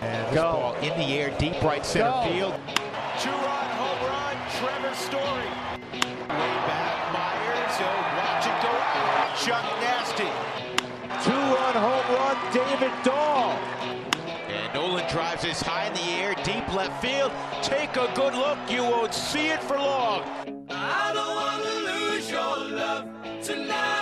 And this ball in the air, deep right center field. Two-run home run, Trevor Story. Way back, Myers. Watch it go out. Chuck Nasty. Two-run home run, David Dahl. And Nolan drives this high in the air, deep left field. Take a good look. You won't see it for long. I don't want to lose your love tonight.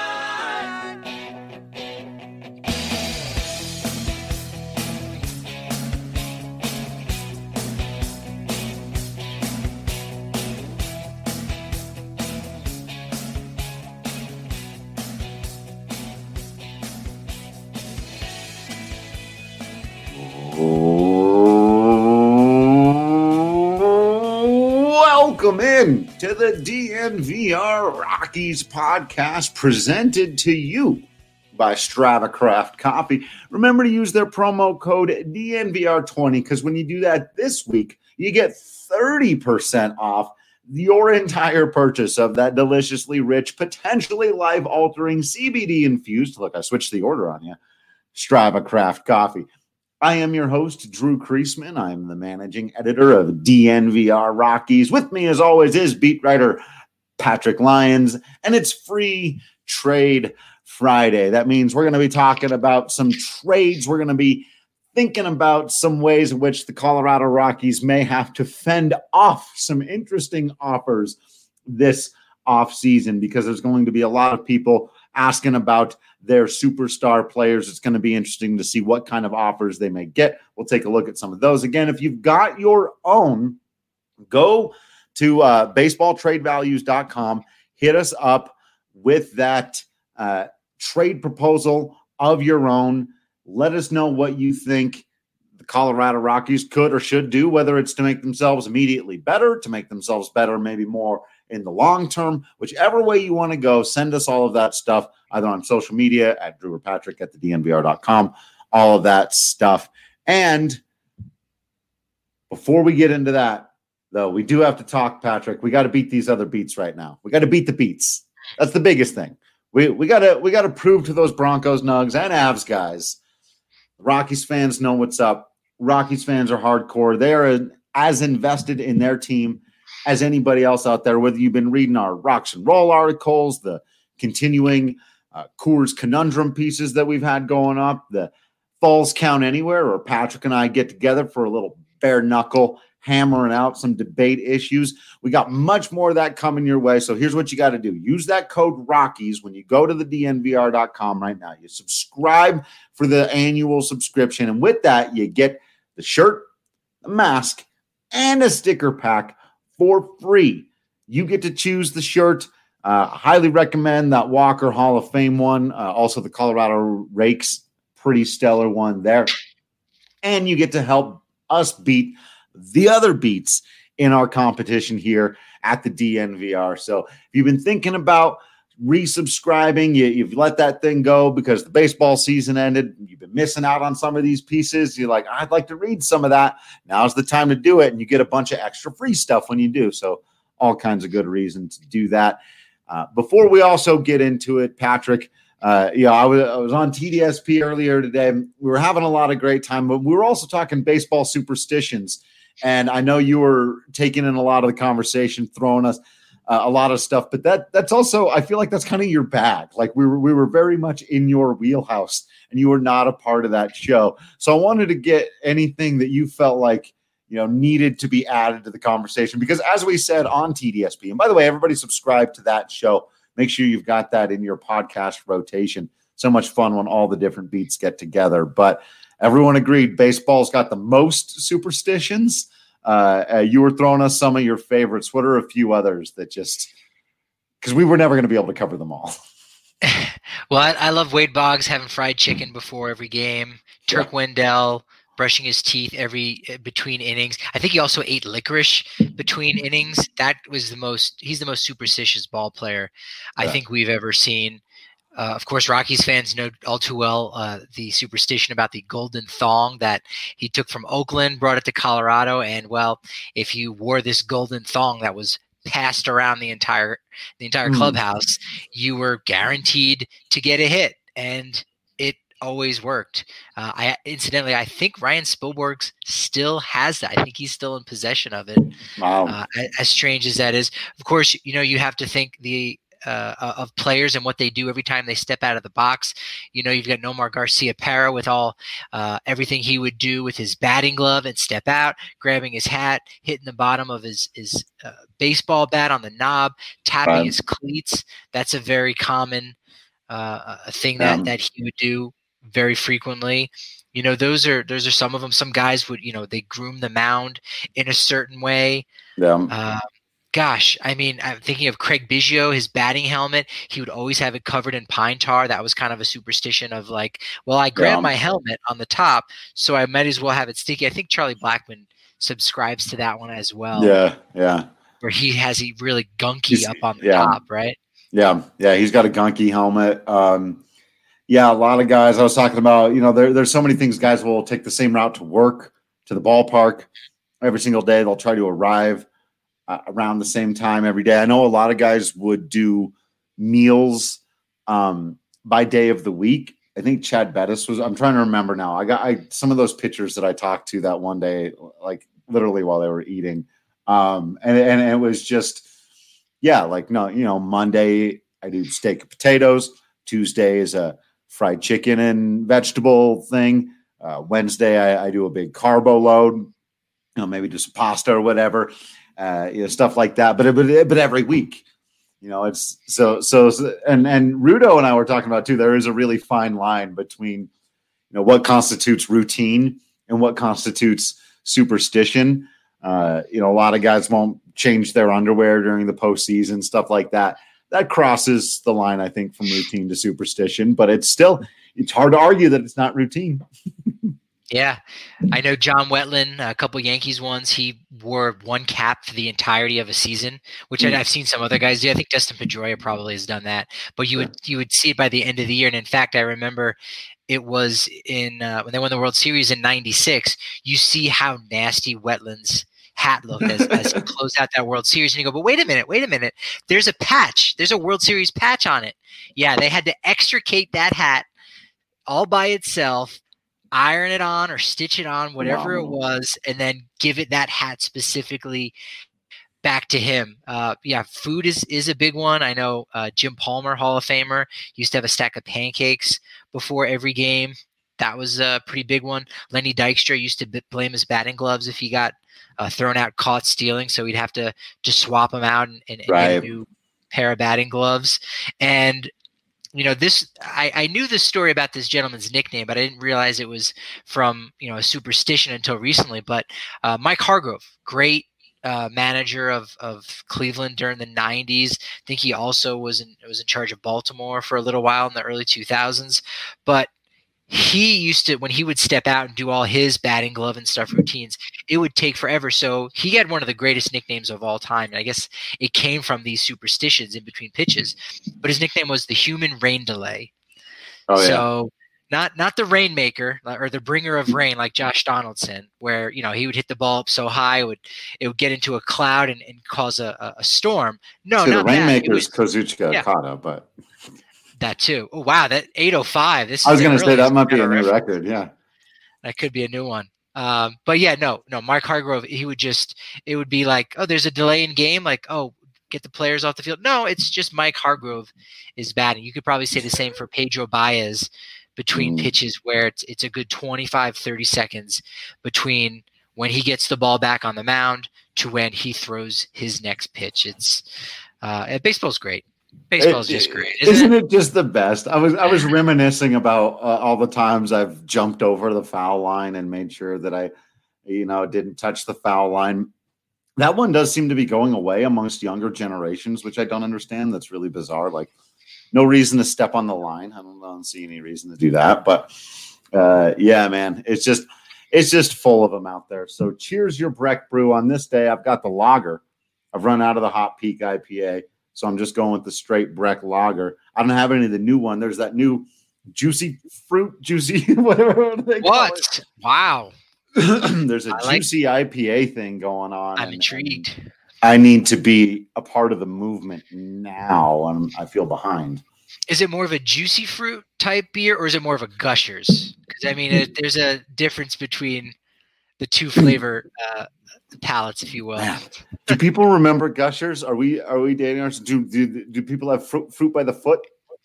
Welcome in to the DNVR Rockies podcast, presented to you by Strava Craft Coffee. Remember to use their promo code DNVR20, because when you do that this week, you get 30% off your entire purchase of that deliciously rich, potentially life-altering CBD-infused, look, I switched the order on you, Strava Craft Coffee. I am your host, Drew Creasman. I'm the managing editor of DNVR Rockies. With me, as always, is beat writer Patrick Lyons, and it's Free Trade Friday. That means we're going to be talking about some trades. We're going to be thinking about some ways in which the Colorado Rockies may have to fend off some interesting offers this offseason, because there's going to be a lot of people asking about their superstar players. It's going to be interesting to see what kind of offers they may get. We'll take a look at some of those. Again, if you've got your own, go to baseballtradevalues.com, hit us up with that trade proposal of your own. Let us know what you think the Colorado Rockies could or should do, whether it's to make themselves immediately better, to make themselves better maybe more in the long term. Whichever way you want to go, send us all of that stuff, either on social media at Drew or Patrick at thednvr.com, all of that stuff. And before we get into that, though, we do have to talk, Patrick. We got to beat these other beats right now. We got to beat the beats. That's the biggest thing. We got to prove to those Broncos, Nugs, and Avs guys, the Rockies fans know what's up. Rockies fans are hardcore. They are as invested in their team as anybody else out there, whether you've been reading our Rocks and Roll articles, the continuing Coors Conundrum pieces that we've had going up, the Falls Count Anywhere, or Patrick and I get together for a little bare knuckle, hammering out some debate issues. We got much more of that coming your way. So here's what you got to do. Use that code Rockies when you go to the DNVR.com right now. You subscribe for the annual subscription. And with that, you get the shirt, the mask, and a sticker pack for free. You get to choose the shirt. Highly recommend that Walker Hall of Fame one. Also the Colorado Rakes, pretty stellar one there. And you get to help us beat the other beats in our competition here at the DNVR. So if you've been thinking about resubscribing, you've let that thing go because the baseball season ended, you've been missing out on some of these pieces, you're like, I'd like to read some of that. Now's the time to do it, and you get a bunch of extra free stuff when you do. So all kinds of good reasons to do that. Before we also get into it, Patrick, I was on TDSP earlier today. We were having a lot of great time, but we were also talking baseball superstitions. And I know you were taking in a lot of the conversation, throwing us a lot of stuff, but that's also, I feel like that's kind of your bag. Like we were very much in your wheelhouse, and you were not a part of that show. So I wanted to get anything that you felt like, needed to be added to the conversation, because as we said on TDSP, and by the way, everybody subscribe to that show. Make sure you've got that in your podcast rotation. So much fun when all the different beats get together, but everyone agreed baseball's got the most superstitions. You were throwing us some of your favorites. What are a few others that just, because we were never going to be able to cover them all. Well, I love Wade Boggs having fried chicken before every game. Turk Wendell brushing his teeth between innings. I think he also ate licorice between innings. He's the most superstitious ball player I think we've ever seen. Of course, Rockies fans know all too well the superstition about the golden thong that he took from Oakland, brought it to Colorado, and if you wore this golden thong that was passed around the entire clubhouse, you were guaranteed to get a hit. And it always worked. I think Ryan Spilborghs still has that. I think he's still in possession of it. Wow. As strange as that is, of course, you have to think of players and what they do every time they step out of the box. You've got Nomar Garcia-Parra with everything he would do with his batting glove and step out, grabbing his hat, hitting the bottom of his baseball bat on the knob, tapping his cleats. That's a very common thing that he would do very frequently. Those are some of them. Some guys would, they groom the mound in a certain way. Yeah. Gosh, I mean, I'm thinking of Craig Biggio, his batting helmet. He would always have it covered in pine tar. That was kind of a superstition of like, well, I grabbed my helmet on the top, so I might as well have it sticky. I think Charlie Blackmon subscribes to that one as well. Yeah. Where he has a really gunky up on the top, right? Yeah. He's got a gunky helmet. A lot of guys I was talking about, there's so many things guys will take the same route to work, to the ballpark every single day. They'll try to arrive around the same time every day. I know a lot of guys would do meals by day of the week. I think Chad Bettis I'm trying to remember now. I got some of those pictures that I talked to that one day, like literally while they were eating. And it was just, Monday I do steak and potatoes. Tuesday is a fried chicken and vegetable thing. Wednesday I do a big carbo load, maybe just pasta or whatever. Stuff like that, but every week, it's so and Rudo and I were talking about too. There is a really fine line between, what constitutes routine and what constitutes superstition. A lot of guys won't change their underwear during the postseason, stuff like that. That crosses the line, I think, from routine to superstition, but it's hard to argue that it's not routine. Yeah, I know John Wetland, a couple Yankees ones, he wore one cap for the entirety of a season, which I've seen some other guys do. I think Dustin Pedroia probably has done that, but you would see it by the end of the year. And in fact, I remember it was in when they won the World Series in '96. You see how nasty Wetland's hat looked as he closed out that World Series, and you go, but wait a minute, there's a patch, there's a World Series patch on it. Yeah, they had to extricate that hat all by itself, iron it on or stitch it on, whatever it was, and then give it that hat specifically back to him. Food is a big one. I know Jim Palmer, Hall of Famer, used to have a stack of pancakes before every game. That was a pretty big one. Lenny Dykstra used to blame his batting gloves if he got thrown out caught stealing, so he'd have to just swap them out and get a new pair of batting gloves. And I knew this story about this gentleman's nickname, but I didn't realize it was from, a superstition until recently. But Mike Hargrove, great manager of Cleveland during the 90s. I think he also was in charge of Baltimore for a little while in the early 2000s. But he used to, when he would step out and do all his batting glove and stuff routines, it would take forever. So he had one of the greatest nicknames of all time. And I guess it came from these superstitions in between pitches, but his nickname was the human rain delay. So not the rainmaker or the bringer of rain like Josh Donaldson, where, he would hit the ball up so high, it would get into a cloud and cause a storm. No, not the rainmaker is Kazuchika Okada, but that too. Oh wow, that 805. I was going to say that might be a new record. Yeah, that could be a new one. But yeah, no. Mark Hargrove, it would be like, oh, there's a delay in game, like, oh, get the players off the field. No, it's just Mike Hargrove is batting. You could probably say the same for Pedro Baez between pitches, where it's a good 25, 30 seconds between when he gets the ball back on the mound to when he throws his next pitch. It's baseball's great. Baseball's just great. Isn't it just the best? I was reminiscing about all the times I've jumped over the foul line and made sure that I, didn't touch the foul line. That one does seem to be going away amongst younger generations, which I don't understand. That's really bizarre. Like, no reason to step on the line. I don't see any reason to do that. But yeah, man, it's just full of them out there. So cheers your Breck Brew. On this day, I've got the lager. I've run out of the Hot Peak IPA. So I'm just going with the straight Breck lager. I don't have any of the new one. There's that new juicy whatever they call it. Wow. There's a juicy IPA thing going on. I'm intrigued. I need to be a part of the movement now. I feel behind. Is it more of a juicy fruit type beer, or is it more of a Gushers? Because I mean, there's a difference between the two flavor palettes, if you will. Man. Do people remember Gushers? Are we dating ourselves? Do people have fruit by the foot?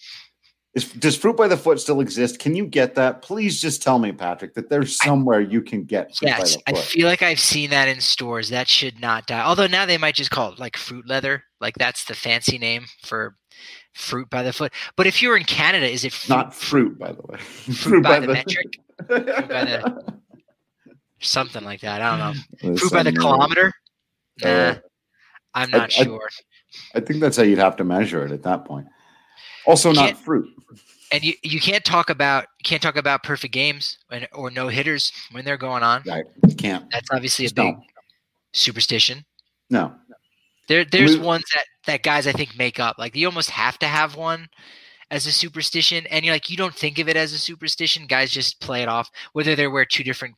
Does fruit by the foot still exist? Can you get that? Please just tell me, Patrick, that there's somewhere you can get fruit by the foot. I feel like I've seen that in stores. That should not die. Although now they might just call it like fruit leather. Like that's the fancy name for fruit by the foot. But if you're in Canada, is it not fruit, by the way? Fruit by the metric? Fruit by the something like that. I don't know. Fruit by the kilometer? Nah, I'm not sure. I think that's how you'd have to measure it at that point. Also, not fruit. And you can't talk about perfect games or no hitters when they're going on. Right. You can't. That's obviously a big superstition. No. There's ones that guys I think make up. Like you almost have to have one as a superstition, and you don't think of it as a superstition. Guys just play it off. Whether they wear two different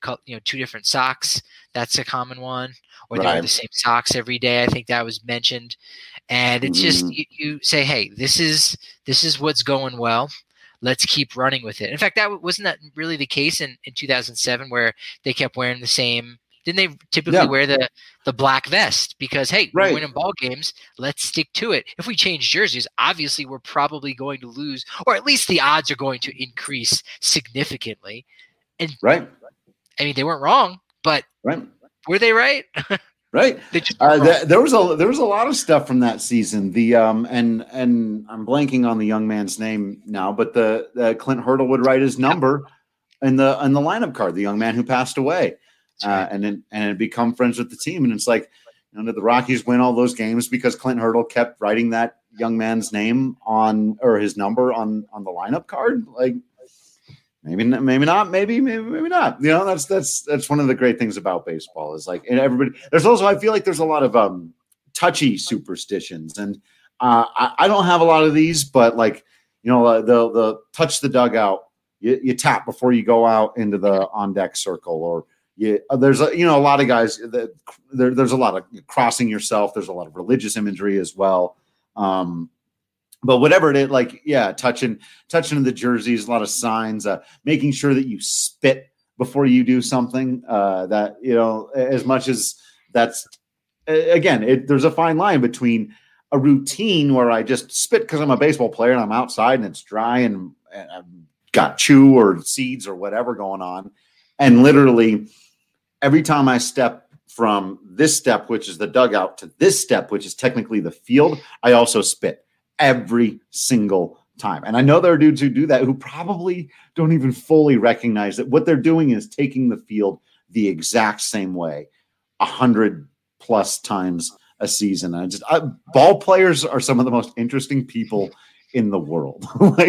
socks, that's a common one, or they wear the same socks every day. I think that was mentioned, and it's just you say, hey, this is what's going well. Let's keep running with it. In fact, wasn't that really the case in 2007, where they kept wearing the same. Didn't they typically wear the black vest because, hey, we're winning ball games. Let's stick to it. If we change jerseys, obviously we're probably going to lose, or at least the odds are going to increase significantly. And I mean, they weren't wrong, but were they right? Right. There was a lot of stuff from that season. The and I'm blanking on the young man's name now, but the Clint Hurdle would write his number in the lineup card. The young man who passed away. And become friends with the team. And it's like, did the Rockies win all those games because Clint Hurdle kept writing that young man's name or his number on the lineup card? Like maybe not, maybe not. That's one of the great things about baseball is like, and everybody, there's also, I feel like there's a lot of touchy superstitions, and I don't have a lot of these, but like, they'll touch the dugout, you tap before you go out into the on deck circle, or there's a lot of guys that there's a lot of crossing yourself. There's a lot of religious imagery as well. But whatever it is, like, touching the jerseys, a lot of signs, making sure that you spit before you do something that, as much as that's, again, there's a fine line between a routine where I just spit because I'm a baseball player and I'm outside and it's dry and I've got chew or seeds or whatever going on. And literally every time I step from this step, which is the dugout, to this step, which is technically the field, I also spit every single time. And I know there are dudes who do that who probably don't even fully recognize that what they're doing is taking the field the exact same way 100+ times a season. And ball players are some of the most interesting people in the world.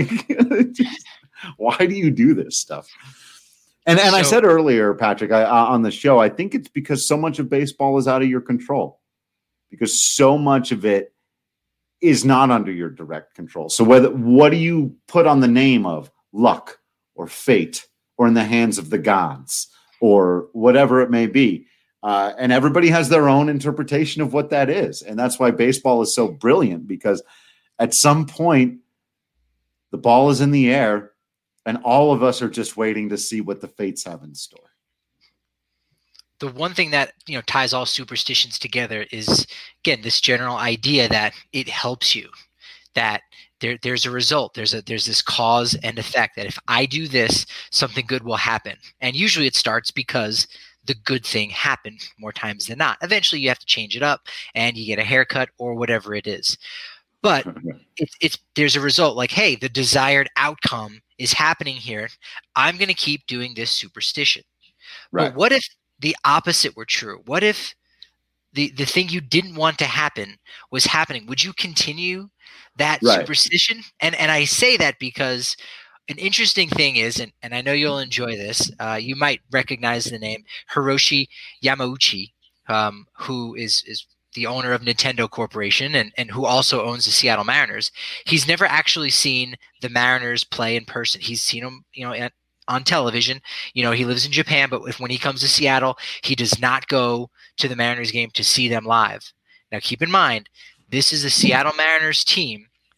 Why do you do this stuff? And I said earlier, Patrick, on the show, I think it's because so much of baseball is out of your control, because so much of it is not under your direct control. So what do you put on the name of luck or fate or in the hands of the gods or whatever it may be? And everybody has their own interpretation of what that is. And that's why baseball is so brilliant, because at some point the ball is in the air, and all of us are just waiting to see what the fates have in store. The one thing that ties all superstitions together is, again, this general idea that it helps you, that there's a result, there's this cause and effect, that if I do this, something good will happen. And usually it starts because the good thing happened more times than not. Eventually you have to change it up and you get a haircut or whatever it is. But there's a result, like, hey, the desired outcome is happening here. I'm going to keep doing this superstition. Right. But what if the opposite were true? What if the thing you didn't want to happen was happening? Would you continue that superstition? And I say that because an interesting thing is, and I know you'll enjoy this, you might recognize the name Hiroshi Yamauchi, who is the owner of Nintendo Corporation and who also owns the Seattle Mariners. He's never actually seen the Mariners play in person. He's seen them, on television. He lives in Japan, but when he comes to Seattle, he does not go to the Mariners game to see them live. Now, keep in mind, this is the Seattle Mariners team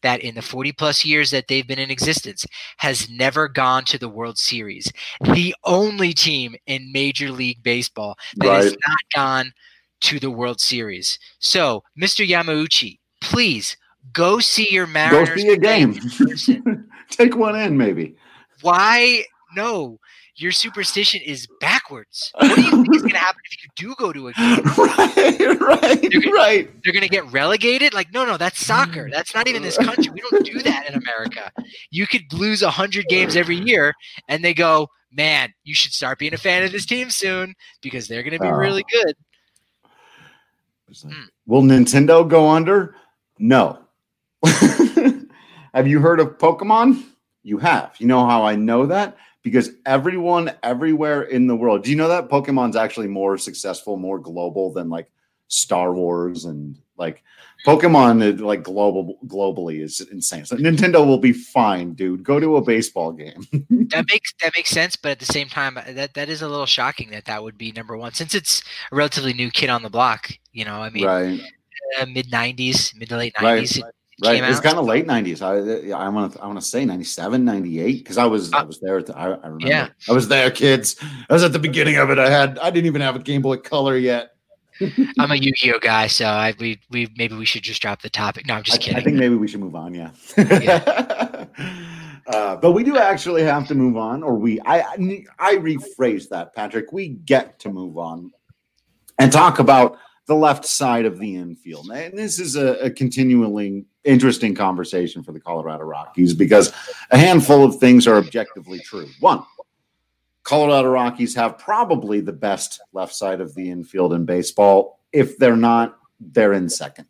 that in the 40-plus years that they've been in existence has never gone to the World Series. The only team in Major League Baseball that has not gone to the World Series. So, Mr. Yamauchi, please go see your Mariners. Go see a game. Take one in, maybe. Why? No. Your superstition is backwards. What do you think is going to happen if you do go to a game? Right. They're going to get relegated? Like, no, that's soccer. That's not even this country. We don't do that in America. You could lose 100 games every year, and they go, man, you should start being a fan of this team soon because they're going to be really good. Will Nintendo go under? No. Have you heard of Pokemon? You have. You know how I know that? Because everyone everywhere in the world, do you know that Pokemon's actually more successful, more global than like Star Wars, and like Pokemon like globally is insane. So Nintendo will be fine, dude. Go to a baseball game. That makes sense, but at the same time, that is a little shocking that would be number one, since it's a relatively new kid on the block. You know, I mean, right. Mid to late 90s. Right. It's kind of late 90s. I want to say 97, 98, because I was there. I remember. Yeah. I was there, kids. I was at the beginning of it. I didn't even have a Game Boy Color yet. I'm a Yu-Gi-Oh guy, so maybe we should just drop the topic. No, I'm just kidding. I think maybe we should move on. Yeah. But we do actually have to move on, or I rephrase that, Patrick. We get to move on and talk about the left side of the infield. And this is a continually interesting conversation for the Colorado Rockies because a handful of things are objectively true. One, Colorado Rockies have probably the best left side of the infield in baseball. If they're not, they're in second.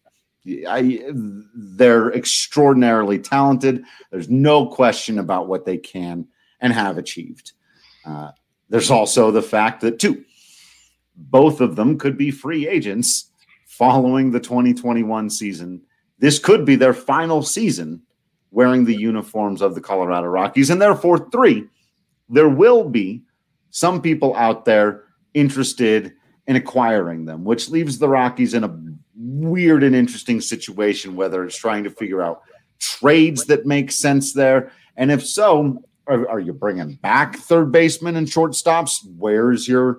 They're extraordinarily talented. There's no question about what they can and have achieved. There's also the fact that, two, both of them could be free agents following the 2021 season. This could be their final season wearing the uniforms of the Colorado Rockies. And therefore, three, there will be some people out there interested in acquiring them, which leaves the Rockies in a weird and interesting situation, whether it's trying to figure out trades that make sense there. And if so, are you bringing back third baseman and shortstops? Where's your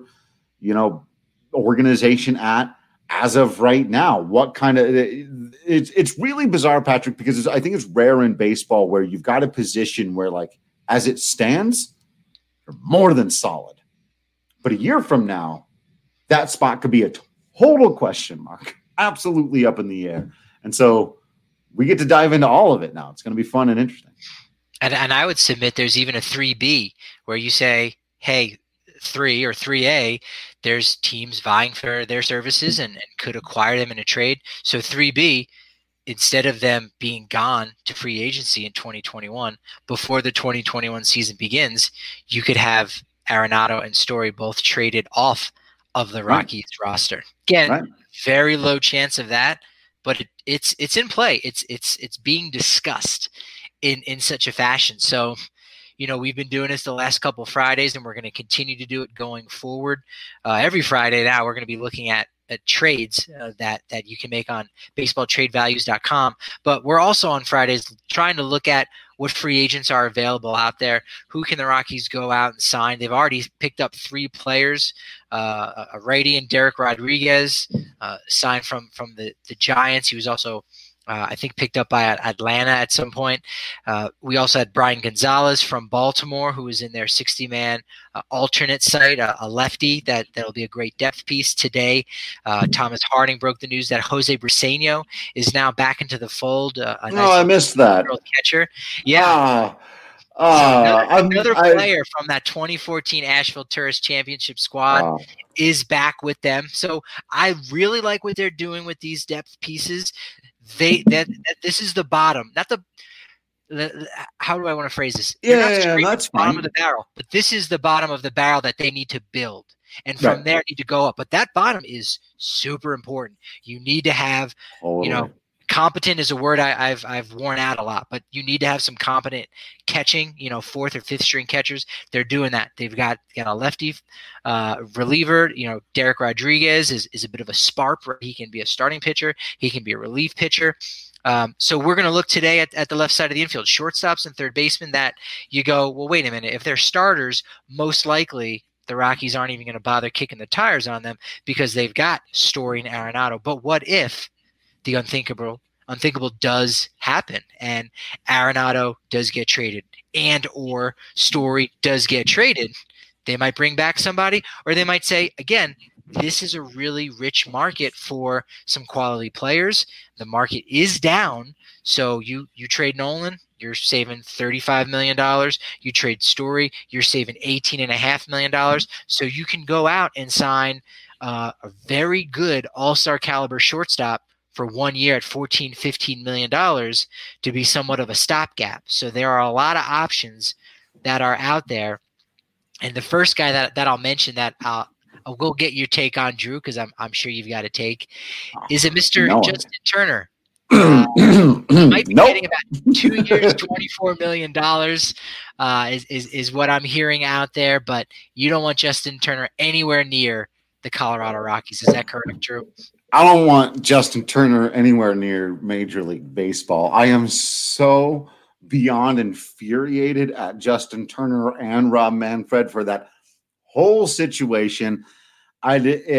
organization at as of right now? What kind of it's really bizarre, Patrick, because I think it's rare in baseball where you've got a position where, like, as it stands, you're more than solid. But a year from now, that spot could be a total question mark, absolutely up in the air. And so we get to dive into all of it now. It's going to be fun and interesting. And I would submit there's even a 3B where you say, hey, 3 or 3A, there's teams vying for their services and could acquire them in a trade. So 3B, instead of them being gone to free agency in 2021, before the 2021 season begins, you could have Arenado and Story both traded off of the Rockies roster. Again, very low chance of that, but it's in play. It's being discussed in such a fashion. So, we've been doing this the last couple of Fridays, and we're going to continue to do it going forward. Every Friday now, we're going to be looking at trades that you can make on baseballtradevalues.com. But we're also on Fridays trying to look at what free agents are available out there. Who can the Rockies go out and sign? They've already picked up 3 players, a righty and Derek Rodriguez, signed from the Giants. He was also I think picked up by Atlanta at some point. We also had Brian Gonzalez from Baltimore, who was in their 60-man alternate site, a lefty that'll be a great depth piece today. Thomas Harding broke the news that Jose Briseño is now back into the fold. I missed that. Catcher. Yeah. Another player from that 2014 Asheville Tourist Championship squad is back with them. So I really like what they're doing with these depth pieces. This is the bottom, not the how do I want to phrase this? That's fine. Bottom of the barrel, but this is the bottom of the barrel that they need to build, and from there need to go up. But that bottom is super important. You need to have, competent is a word I've worn out a lot, but you need to have some competent catching, 4th or 5th string catchers. They're doing that. They've got a lefty reliever. Derek Rodriguez is a bit of a spark. He can be a starting pitcher. He can be a relief pitcher. So we're going to look today at the left side of the infield, shortstops and third basemen, that you go, well, wait a minute. If they're starters, most likely the Rockies aren't even going to bother kicking the tires on them because they've got Story and Arenado. But what if the unthinkable does happen and Arenado does get traded and or Story does get traded? They might bring back somebody, or they might say, again, this is a really rich market for some quality players. The market is down. So you trade Nolan, you're saving $35 million. You trade Story, you're saving $18.5 million. So you can go out and sign a very good all-star caliber shortstop for 1 year at $14-15 million to be somewhat of a stopgap. So there are a lot of options that are out there. And the first guy that I'll mention that I'll go get your take on, Drew, because I'm sure you've got a take, is a Mr. Justin Turner. Might be getting about 2 years, $24 million is what I'm hearing out there. But you don't want Justin Turner anywhere near the Colorado Rockies. Is that correct, Drew? I don't want Justin Turner anywhere near Major League Baseball. I am so beyond infuriated at Justin Turner and Rob Manfred for that whole situation. I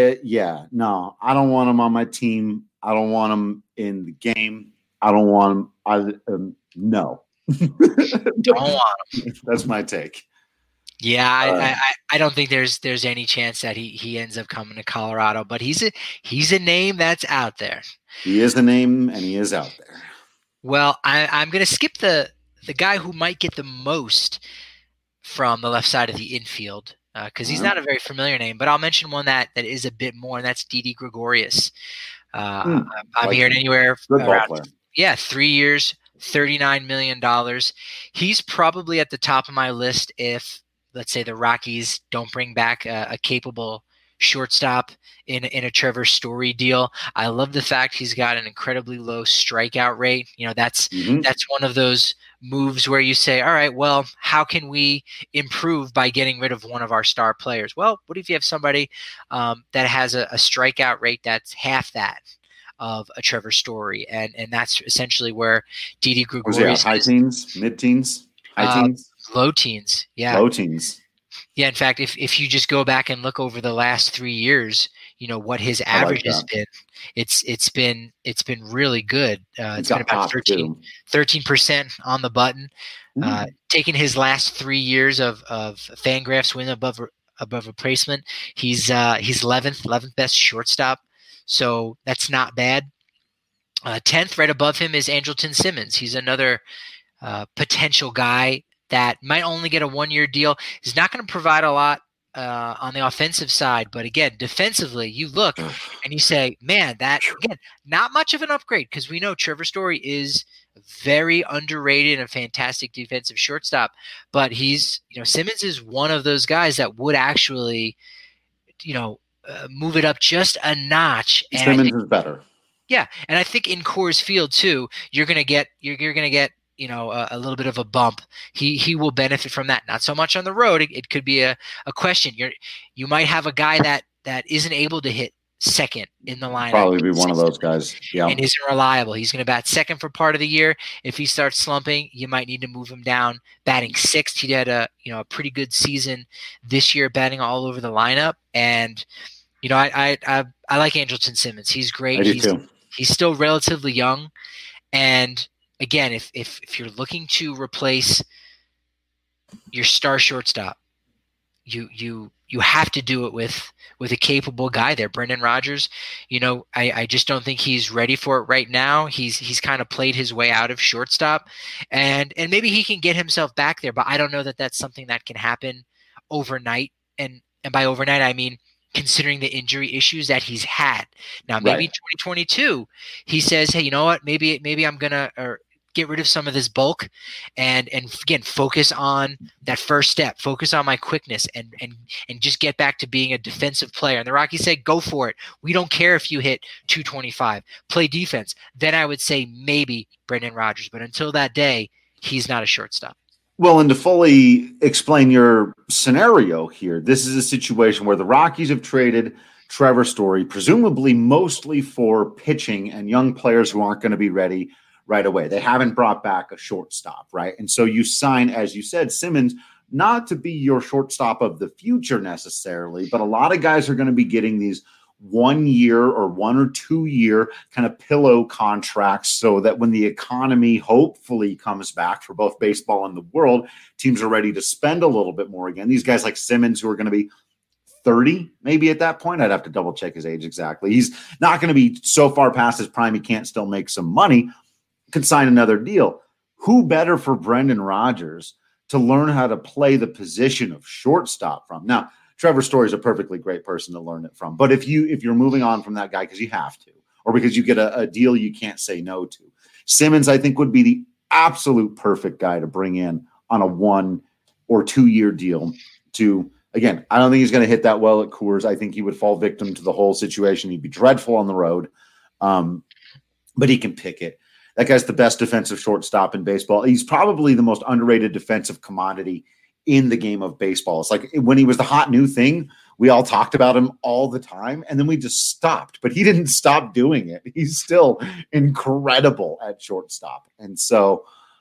don't want him on my team. I don't want him in the game. I don't want him. No. Don't want him. That's my take. Yeah, I don't think there's any chance that he ends up coming to Colorado, but he's a name that's out there. He is a name, and he is out there. Well, I'm going to skip the guy who might get the most from the left side of the infield because he's not a very familiar name, but I'll mention one that is a bit more, and that's Didi Gregorius. I'm hearing anywhere around 3 years, $39 million. He's probably at the top of my list if, let's say, the Rockies don't bring back a capable shortstop in a Trevor Story deal. I love the fact he's got an incredibly low strikeout rate. That's one of those moves where you say, all right, well, how can we improve by getting rid of one of our star players? Well, what if you have somebody that has a strikeout rate that's half that of a Trevor Story? And that's essentially where Didi Gregorius high teens, mid-teens, high teens? Low teens. Yeah. Low teens. Yeah, in fact, if you just go back and look over the last 3 years, what his average has been, it's been really good. It's been about 13% on the button. Taking his last 3 years of Fangraphs win above replacement, he's 11th best shortstop. So that's not bad. 10th, right above him, is Andrelton Simmons. He's another potential guy that might only get a 1 year deal. He's not going to provide a lot on the offensive side, but again, defensively, you look and you say, man, that, again, not much of an upgrade, because we know Trevor Story is very underrated and a fantastic defensive shortstop, but Simmons is one of those guys that would actually, move it up just a notch. And Simmons is better. Yeah, and I think in Coors Field too, you're gonna get a little bit of a bump. He will benefit from that. Not so much on the road. It could be a question. You might have a guy that isn't able to hit second in the lineup. Probably be one of those guys. Yeah, and isn't reliable. He's going to bat second for part of the year. If he starts slumping, you might need to move him down. Batting sixth, he had a pretty good season this year, batting all over the lineup. And I like Andrelton Simmons. He's great. I do too. He's still relatively young, and again, if you're looking to replace your star shortstop, you have to do it with a capable guy there. Brendan Rodgers, I just don't think he's ready for it right now. He's kind of played his way out of shortstop, and maybe he can get himself back there, but I don't know that that's something that can happen overnight. And by overnight, I mean considering the injury issues that he's had. Now, maybe in 2022, he says, hey, you know what? Maybe I'm going to get rid of some of this bulk and again, focus on that first step, focus on my quickness and just get back to being a defensive player. And the Rockies say, go for it. We don't care if you hit 225, play defense. Then I would say maybe Brendan Rodgers. But until that day, he's not a shortstop. Well, and to fully explain your scenario here, this is a situation where the Rockies have traded Trevor Story, presumably mostly for pitching and young players who aren't going to be ready right away. They haven't brought back a shortstop, right? And so you sign, as you said, Simmons, not to be your shortstop of the future necessarily, but a lot of guys are going to be getting these 1 year or 1 or 2 year kind of pillow contracts so that when the economy hopefully comes back for both baseball and the world, teams are ready to spend a little bit more again. These guys like Simmons, who are going to be 30 maybe at that point. I'd have to double check his age exactly. He's not going to be so far past his prime he can't still make some money, could sign another deal. Who better for Brendan Rodgers to learn how to play the position of shortstop from? Now, Trevor Story is a perfectly great person to learn it from. But if you're moving on from that guy because you have to, or because you get a deal you can't say no to, Simmons, I think, would be the absolute perfect guy to bring in on a 1 or 2 year deal to, again, I don't think he's going to hit that well at Coors. I think he would fall victim to the whole situation. He'd be dreadful on the road, but he can pick it. That guy's the best defensive shortstop in baseball. He's probably the most underrated defensive commodity in the game of baseball. It's like when he was the hot new thing, we all talked about him all the time, and then we just stopped. But he didn't stop doing it. He's still incredible at shortstop. And so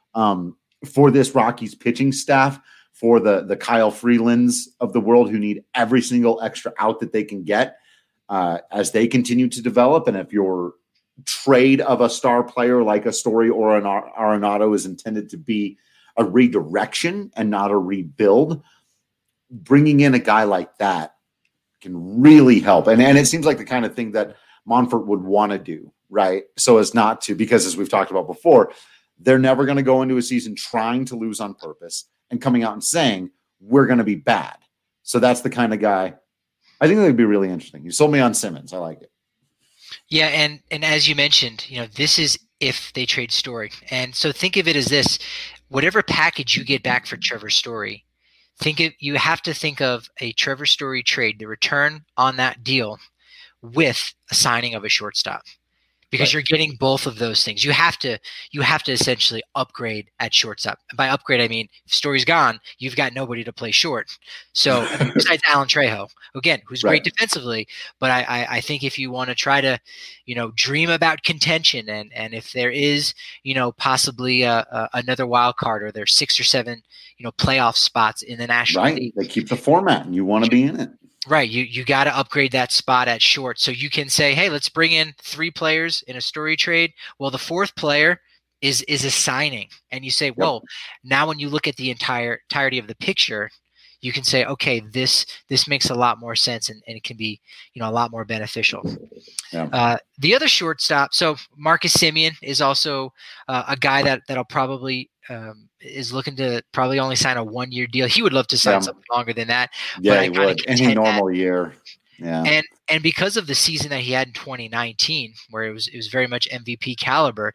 for this Rockies pitching staff, for the Kyle Freelands of the world who need every single extra out that they can get as they continue to develop, and if your trade of a star player like a Story or an Arenado is intended to be a redirection and not a rebuild, bringing in a guy like that can really help. And it seems like the kind of thing that Monfort would want to do, right? So as not to, because as we've talked about before, they're never going to go into a season trying to lose on purpose and coming out and saying, we're going to be bad. So that's the kind of guy I think that would be really interesting. You sold me on Simmons. I like it. Yeah, and as you mentioned, this is if they trade Story. And so think of it as this: whatever package you get back for Trevor Story, you have to think of a Trevor Story trade, the return on that deal, with a signing of a shortstop. Because you're getting both of those things. You have to essentially upgrade at shortstop. And by upgrade, I mean if Story's gone, you've got nobody to play short. So besides Alan Trejo, again, who's great defensively, but I think if you want to try to, dream about contention, and if there is, possibly another wild card, or there's 6 or 7, playoff spots in the National League. They keep the format, and you want to be in it. Right. You got to upgrade that spot at short. So you can say, hey, let's bring in 3 players in a Story trade. Well, the 4th player is a signing. And you say, well, now when you look at the entirety of the picture, you can say, okay, this makes a lot more sense, and it can be, a lot more beneficial. Yeah. The other shortstop, so Marcus Semien is also a guy that'll probably is looking to probably only sign a 1-year deal. He would love to sign something longer than that. Yeah, he would. Any normal year. Yeah. And because of the season that he had in 2019, where it was very much MVP caliber,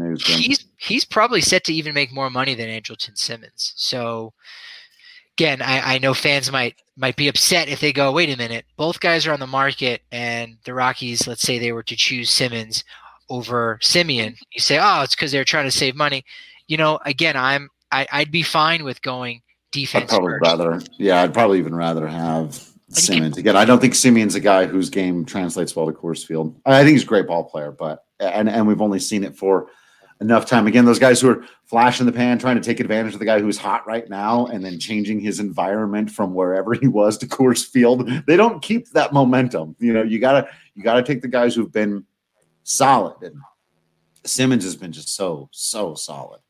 he's probably set to even make more money than Andrelton Simmons. So again, I know fans might be upset if they go, wait a minute, both guys are on the market, and the Rockies, let's say they were to choose Simmons over Semien. You say, oh, it's because they're trying to save money. Again, I'd be fine with going defense. I'd probably even rather have Simmons. Again, I don't think Semien's a guy whose game translates well to Coors Field. I think he's a great ball player, but and we've only seen it for enough time. Again, those guys who are flash in the pan, trying to take advantage of the guy who's hot right now, and then changing his environment from wherever he was to Coors Field, they don't keep that momentum. You gotta take the guys who've been solid, and Simmons has been just so solid.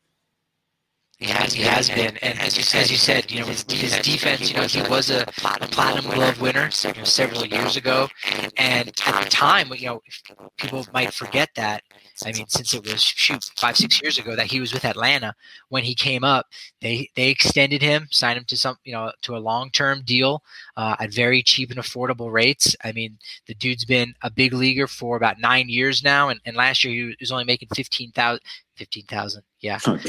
He has been, and as you said, his defense. He was a Platinum Glove winner several years ago, and at the time, people might forget that. I mean, since it was 5-6 years ago that he was with Atlanta when he came up, they extended him, signed him to to a long-term deal at very cheap and affordable rates. I mean, the dude's been a big leaguer for about 9 years now, and last year he was only making $15,000. Yeah. Wow.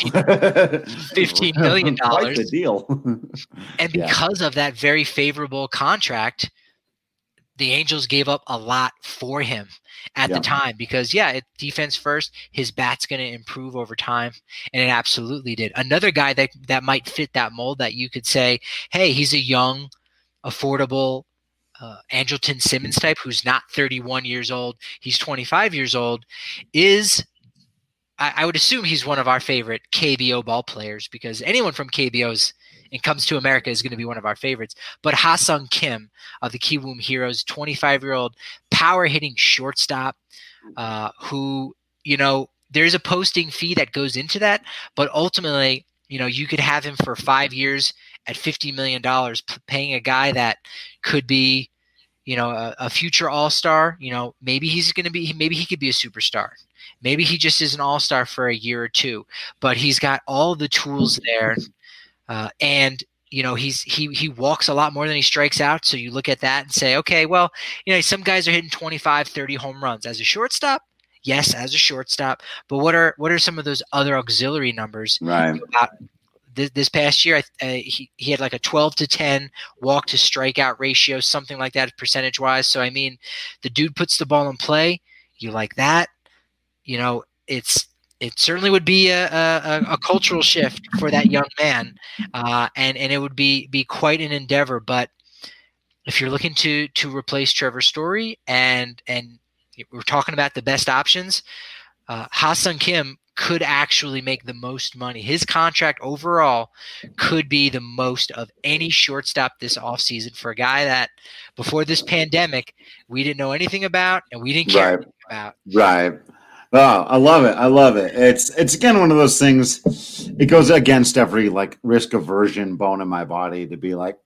$15 million. Quite the deal. And because of that very favorable contract, the Angels gave up a lot for him at the time, because defense first, his bat's going to improve over time. And it absolutely did. Another guy that might fit that mold, that you could say, hey, he's a young, affordable Andrelton Simmons type who's not 31 years old. He's 25 years old, is I would assume he's one of our favorite KBO ball players, because anyone from KBO's and comes to America is going to be one of our favorites. But Ha-Sung Kim of the Kiwoom Heroes, 25-year-old power hitting shortstop, who, there's a posting fee that goes into that, but ultimately, you could have him for 5 years at $50 million, paying a guy that could be, a future all-star. Maybe he could be a superstar. Maybe he just is an all-star for a year or two, but he's got all the tools there. And he walks a lot more than he strikes out. So you look at that and say, okay, well, some guys are hitting 25, 30 home runs as a shortstop. Yes, as a shortstop. But what are some of those other auxiliary numbers? Right. This past year, he had like a 12-10 walk to strikeout ratio, something like that, percentage wise. So I mean, the dude puts the ball in play. You like that? It certainly would be a cultural shift for that young man, and it would be quite an endeavor. But if you're looking to replace Trevor Story, and we're talking about the best options, Ha-Sung Kim could actually make the most money. His contract overall could be the most of any shortstop this offseason for a guy that before this pandemic we didn't know anything about and we didn't care anything about. Right. Oh, I love it. It's again one of those things. It goes against every risk aversion bone in my body to be like,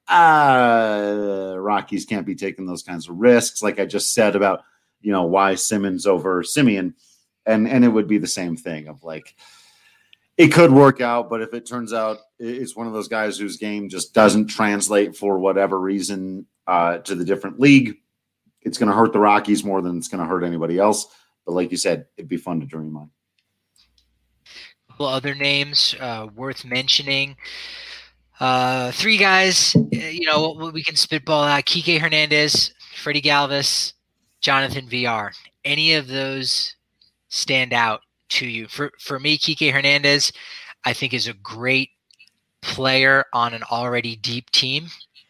Rockies can't be taking those kinds of risks. Like I just said about, why Simmons over Simeon, and it would be the same thing of it could work out, but if it turns out it's one of those guys whose game just doesn't translate for whatever reason to the different league, it's going to hurt the Rockies more than it's going to hurt anybody else. But like you said, it'd be fun to dream on. A couple other names worth mentioning. 3 guys, we can spitball out: Kike Hernandez, Freddie Galvis, Jonathan VR. Any of those stand out to you? For me, Kike Hernandez, I think, is a great player on an already deep team.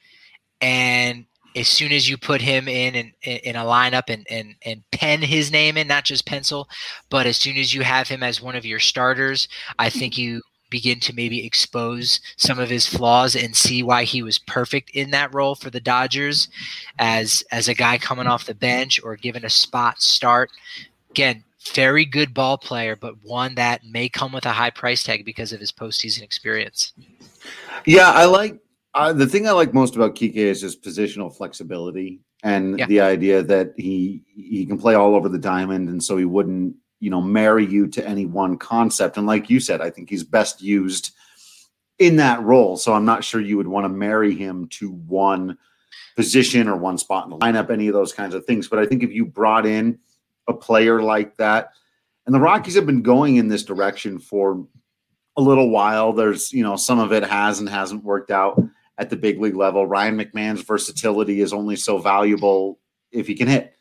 And as soon as you put him in a lineup and pen his name in, not just pencil, but as soon as you have him as one of your starters, I think you begin to maybe expose some of his flaws and see why he was perfect in that role for the Dodgers as a guy coming off the bench or given a spot start. Again, very good ball player, but one that may come with a high price tag because of his postseason experience. Yeah, I like the thing I like most about Kike is his positional flexibility and the idea that he can play all over the diamond, and so he wouldn't, marry you to any one concept. And like you said, I think he's best used in that role. So I'm not sure you would want to marry him to one position or one spot in the lineup, any of those kinds of things. But I think if you brought in a player like that, and the Rockies have been going in this direction for a little while, there's, some of it has and hasn't worked out at the big league level. Ryan McMahon's versatility is only so valuable if he can hit.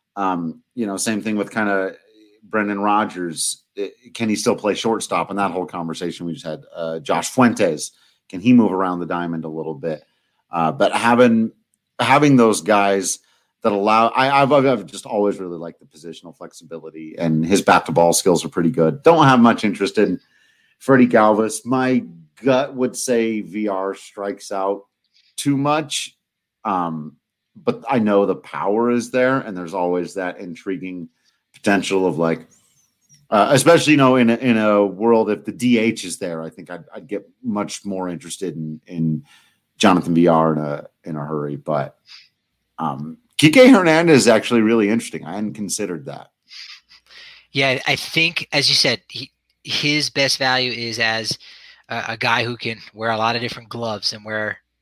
Same thing with kind of Brendan Rodgers. Can he still play shortstop? And that whole conversation we just had. Josh Fuentes, can he move around the diamond a little bit? But having those guys that allow, I've just always really liked the positional flexibility, and his bat to ball skills are pretty good. Don't have much interest in Freddie Galvis. My gut would say VR strikes out too much. But I know the power is there, and there's always that intriguing potential of especially, in a world, if the DH is there, I think I'd get much more interested in Jonathan VR in a hurry. But Kike Hernandez is actually really interesting. I hadn't considered that. Yeah, I think, as you said, his best value is as a guy who can wear a lot of different gloves and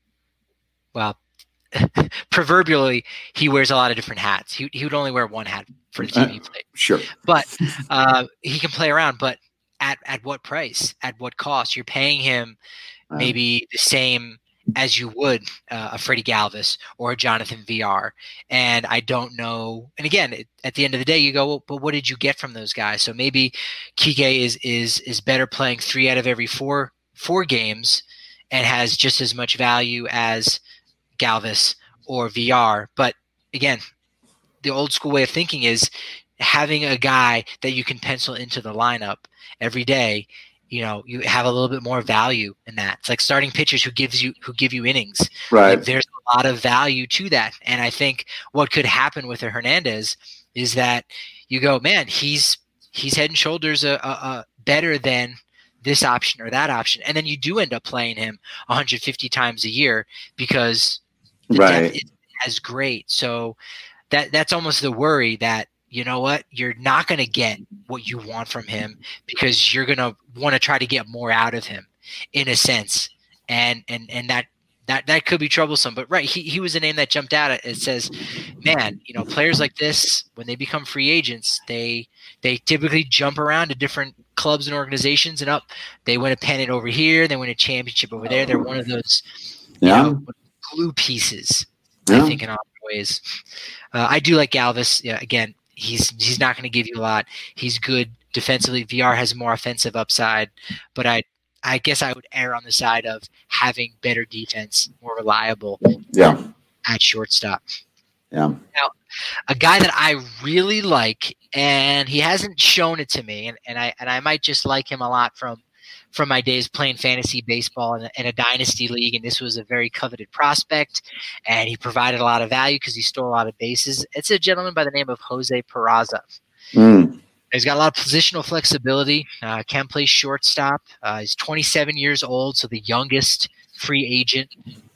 proverbially, he wears a lot of different hats. He would only wear one hat for the team he played. Sure. But he can play around, but at what price? At what cost? You're paying him maybe the same as you would a Freddie Galvis or a Jonathan VR. And I don't know. And again, at the end of the day, you go, well, but what did you get from those guys? So maybe Kike is better playing 3 out of every four games and has just as much value as Galvis or VR. But again, the old school way of thinking is having a guy that you can pencil into the lineup every day, you have a little bit more value in that. It's like starting pitchers who give you innings. Right. Like, there's a lot of value to that. And I think what could happen with a Hernandez is that you go, man, he's head and shoulders better than this option or that option. And then you do end up playing him 150 times a year because the depth isn't as great. So that's almost the worry that, you know what, you're not going to get what you want from him because you're going to want to try to get more out of him in a sense. And that could be troublesome. But right, he was a name that jumped out. It says, man, players like this, when they become free agents, they typically jump around to different clubs and organizations, and they win a pennant over here, they win a championship over there. They're one of those glue pieces, I think, in a lot of ways. I do like Galvis. Yeah, again, he's not going to give you a lot. He's good defensively. VR has more offensive upside, but I guess I would err on the side of having better defense, more reliable at shortstop. Yeah. Now, a guy that I really like, and he hasn't shown it to me, and I might just like him a lot from my days playing fantasy baseball in a dynasty league, and this was a very coveted prospect, and he provided a lot of value because he stole a lot of bases. It's a gentleman by the name of Jose Peraza. He's got a lot of positional flexibility, can play shortstop. He's 27 years old, so the youngest free agent.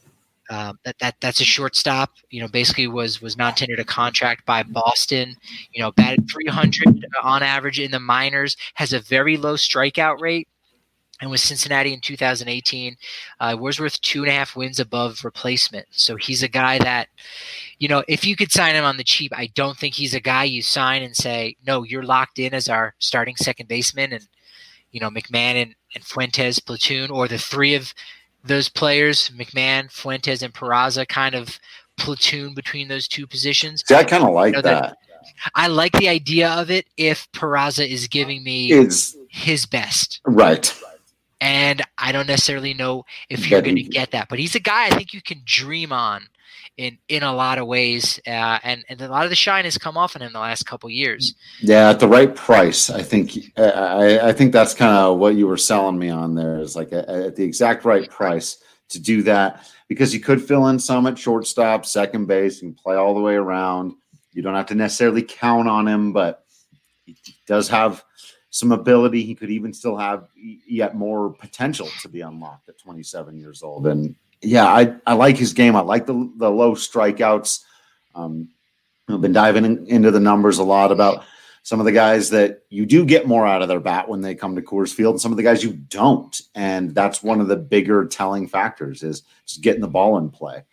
That's a shortstop. Basically was non-tendered a contract by Boston. Batted 300 on average in the minors. Has a very low strikeout rate. And with Cincinnati in 2018, was worth 2.5 wins above replacement. So he's a guy that, if you could sign him on the cheap, I don't think he's a guy you sign and say, no, you're locked in as our starting second baseman, and McMahon and Fuentes platoon, or the three of those players, McMahon, Fuentes, and Peraza, kind of platoon between those two positions. See, I kind of like that. I like the idea of it if Peraza is giving me his best. Right. And I don't necessarily know if you're going to get that. But he's a guy I think you can dream on in a lot of ways. And a lot of the shine has come off on him the last couple of years. Yeah, at the right price. I think I think that's kind of what you were selling me on there, is like at the exact right price to do that, because you could fill in some at shortstop, second base, and play all the way around. You don't have to necessarily count on him, but he does have some ability. He could even still have yet more potential to be unlocked at 27 years old. And yeah, I like his game. I like the low strikeouts. I've been diving into the numbers a lot about some of the guys that you do get more out of their bat when they come to Coors Field, and some of the guys you don't. And that's one of the bigger telling factors, is just getting the ball in play.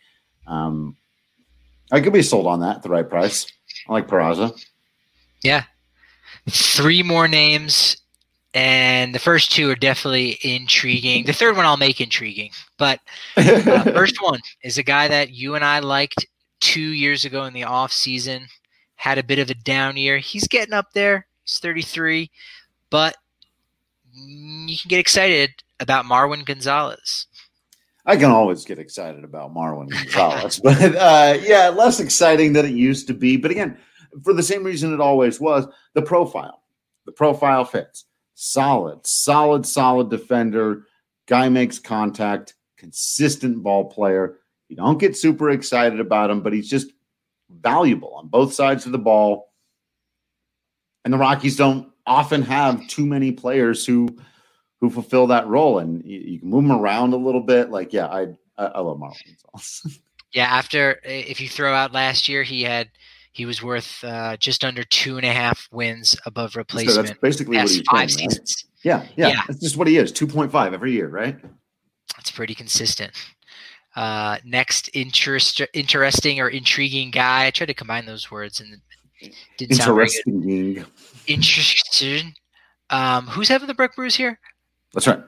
I could be sold on that at the right price. I like Peraza. Yeah. 3 more names, and the first 2 are definitely intriguing. The third one I'll make intriguing. But first one is a guy that you and I liked 2 years ago in the off season. Had a bit of a down year. He's getting up there. He's 33. But you can get excited about Marwin Gonzalez. I can always get excited about Marwin Gonzalez. But, less exciting than it used to be. But, again, for the same reason it always was, the profile. The profile fits. Solid defender. Guy makes contact. Consistent ball player. You don't get super excited about him, but he's just valuable on both sides of the ball. And the Rockies don't often have too many players who fulfill that role. And you can move them around a little bit. Like, yeah, I love Marwin Gonzalez. Yeah, if you throw out last year, he was worth just under 2.5 wins above replacement. So that's basically what he's 5 seasons. Right? Yeah. That's just what he is. 2.5 every year, right? That's pretty consistent. Next interesting or intriguing guy. I tried to combine those words and it didn't sound very good. Interesting. Who's having the Breck Brews here? That's right.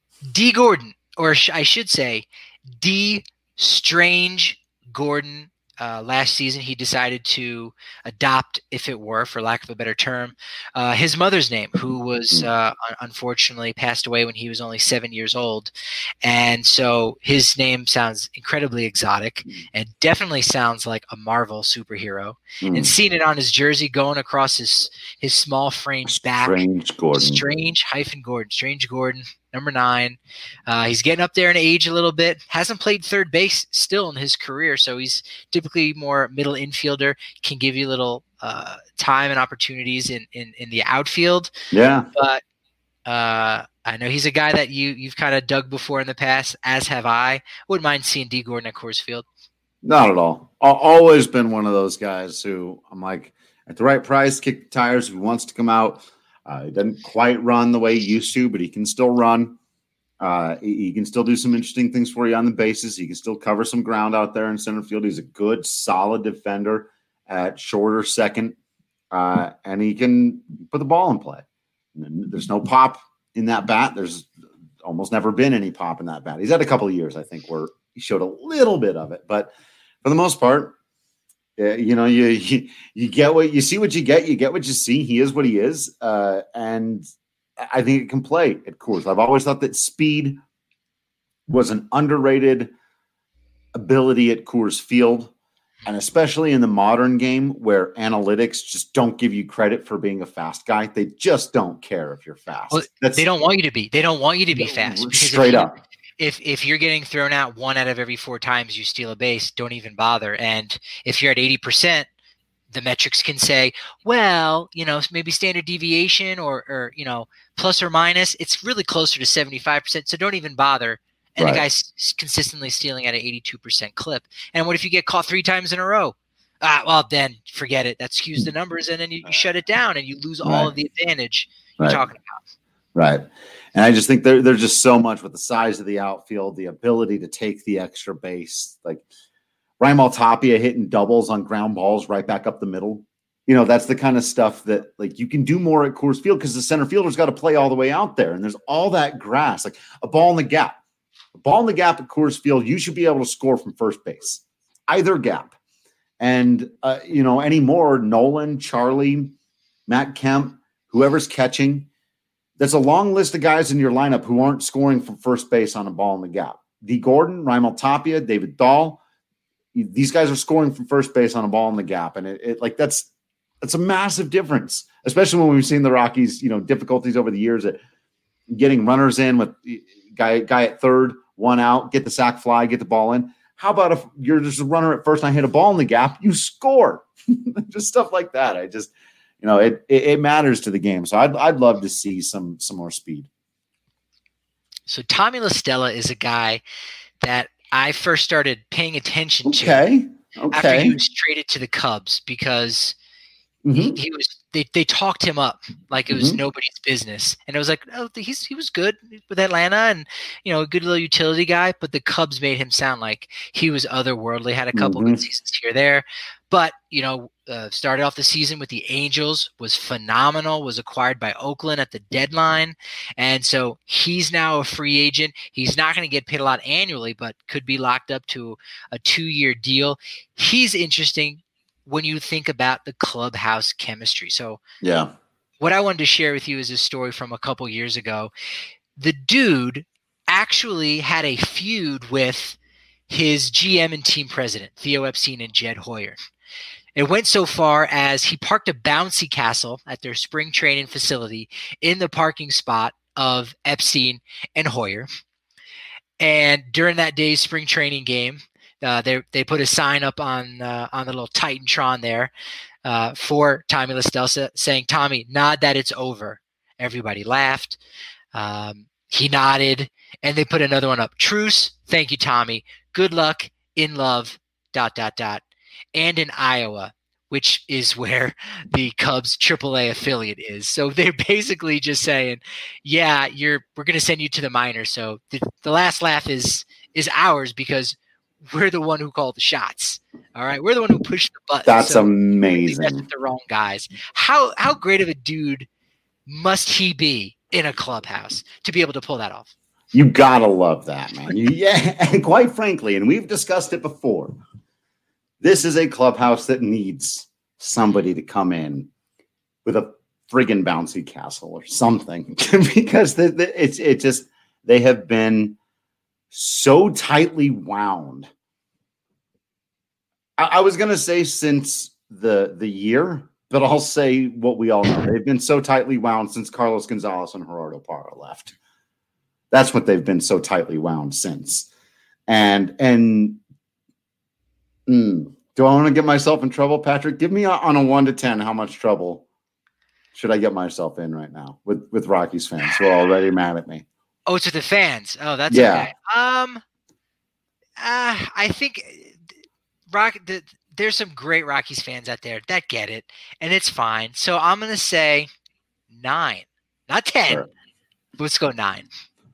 D. Gordon, or I should say D. Strange Gordon last season, he decided to adopt, if it were, for lack of a better term, his mother's name, who was unfortunately passed away when he was only 7 years old. And so his name sounds incredibly exotic and definitely sounds like a Marvel superhero. And seeing it on his jersey going across his small frame back. Strange Gordon, number 9. He's getting up there in age a little bit. Hasn't played third base still in his career, so he's typically more middle infielder. Can give you a little time and opportunities in the outfield. Yeah, but I know he's a guy that you've kind of dug before in the past, as have I. Wouldn't mind seeing D. Gordon at Coors Field. Not at all. Always been one of those guys who I'm like, at the right price, kick the tires if he wants to come out. He doesn't quite run the way he used to, but he can still run. He can still do some interesting things for you on the bases. He can still cover some ground out there in center field. He's a good, solid defender at short or second, and he can put the ball in play. There's no pop in that bat. There's almost never been any pop in that bat. He's had a couple of years, I think, where he showed a little bit of it, but for the most part, you get what you see, what you get what you see. He is what he is, and I think it can play at Coors. I've always thought that speed was an underrated ability at Coors Field, and especially in the modern game where analytics just don't give you credit for being a fast guy. They just don't care if you're fast. Well, they don't want you to be. They don't want you to be fast. Straight up. If you're getting thrown out 1 out of every 4 times you steal a base, don't even bother. And if you're at 80%, the metrics can say, well, maybe standard deviation or plus or minus. It's really closer to 75%. So don't even bother. And The guy's consistently stealing at an 82% clip. And what if you get caught 3 times in a row? Well, then forget it. That skews the numbers, and then you shut it down, and you lose all of the advantage you're talking about. Right. And I just think there's just so much with the size of the outfield, the ability to take the extra base, like Raimel Tapia hitting doubles on ground balls right back up the middle. That's the kind of stuff that like you can do more at Coors Field because the center fielder's got to play all the way out there. And there's all that grass, like a ball in the gap at Coors Field. You should be able to score from first base, either gap. And, anymore, Nolan, Charlie, Matt Kemp, whoever's catching, there's a long list of guys in your lineup who aren't scoring from first base on a ball in the gap. D. Gordon, Raimel Tapia, David Dahl. These guys are scoring from first base on a ball in the gap. And that's a massive difference, especially when we've seen the Rockies, difficulties over the years at getting runners in with guy at third, 1 out, get the sac fly, get the ball in. How about if you're just a runner at first and I hit a ball in the gap, you score. Just stuff like that. I just, it matters to the game. So I'd love to see some more speed. So Tommy La Stella is a guy that I first started paying attention to after he was traded to the Cubs because he was. They talked him up like it was nobody's business, and it was like, oh, he was good with Atlanta, and a good little utility guy. But the Cubs made him sound like he was otherworldly. Had a couple good seasons here or there, but started off the season with the Angels, was phenomenal. Was acquired by Oakland at the deadline, and so he's now a free agent. He's not going to get paid a lot annually, but could be locked up to a 2-year deal. He's interesting when you think about the clubhouse chemistry. So what I wanted to share with you is a story from a couple years ago. The dude actually had a feud with his GM and team president, Theo Epstein and Jed Hoyer. It went so far as he parked a bouncy castle at their spring training facility in the parking spot of Epstein and Hoyer. And during that day's spring training game, they put a sign up on the little Titantron there for Tommy La Stella saying, "Tommy, nod that it's over." Everybody laughed. He nodded, and they put another one up. "Truce. Thank you, Tommy. Good luck. In love. ... And in Iowa, which is where the Cubs AAA affiliate is. So they're basically just saying, "Yeah, we're going to send you to the minors." So the last laugh is ours because we're the one who called the shots. All right. We're the one who pushed the button. That's amazing. That's the wrong guys. How great of a dude must he be in a clubhouse to be able to pull that off? You got to love that, man. And quite frankly, and we've discussed it before, This is a clubhouse that needs somebody to come in with a friggin' bouncy castle or something because they have been so tightly wound. I was going to say since the year, but I'll say what we all know. They've been so tightly wound since Carlos Gonzalez and Gerardo Parra left. That's what they've been so tightly wound since. And do I want to get myself in trouble, Patrick? Give me on a 1 to 10 how much trouble should I get myself in right now with Rockies fans who are already mad at me? Oh, it's with the fans. Oh, that's okay. I think there's some great Rockies fans out there that get it, and it's fine. So I'm going to say 9, not 10. Sure. Let's go 9.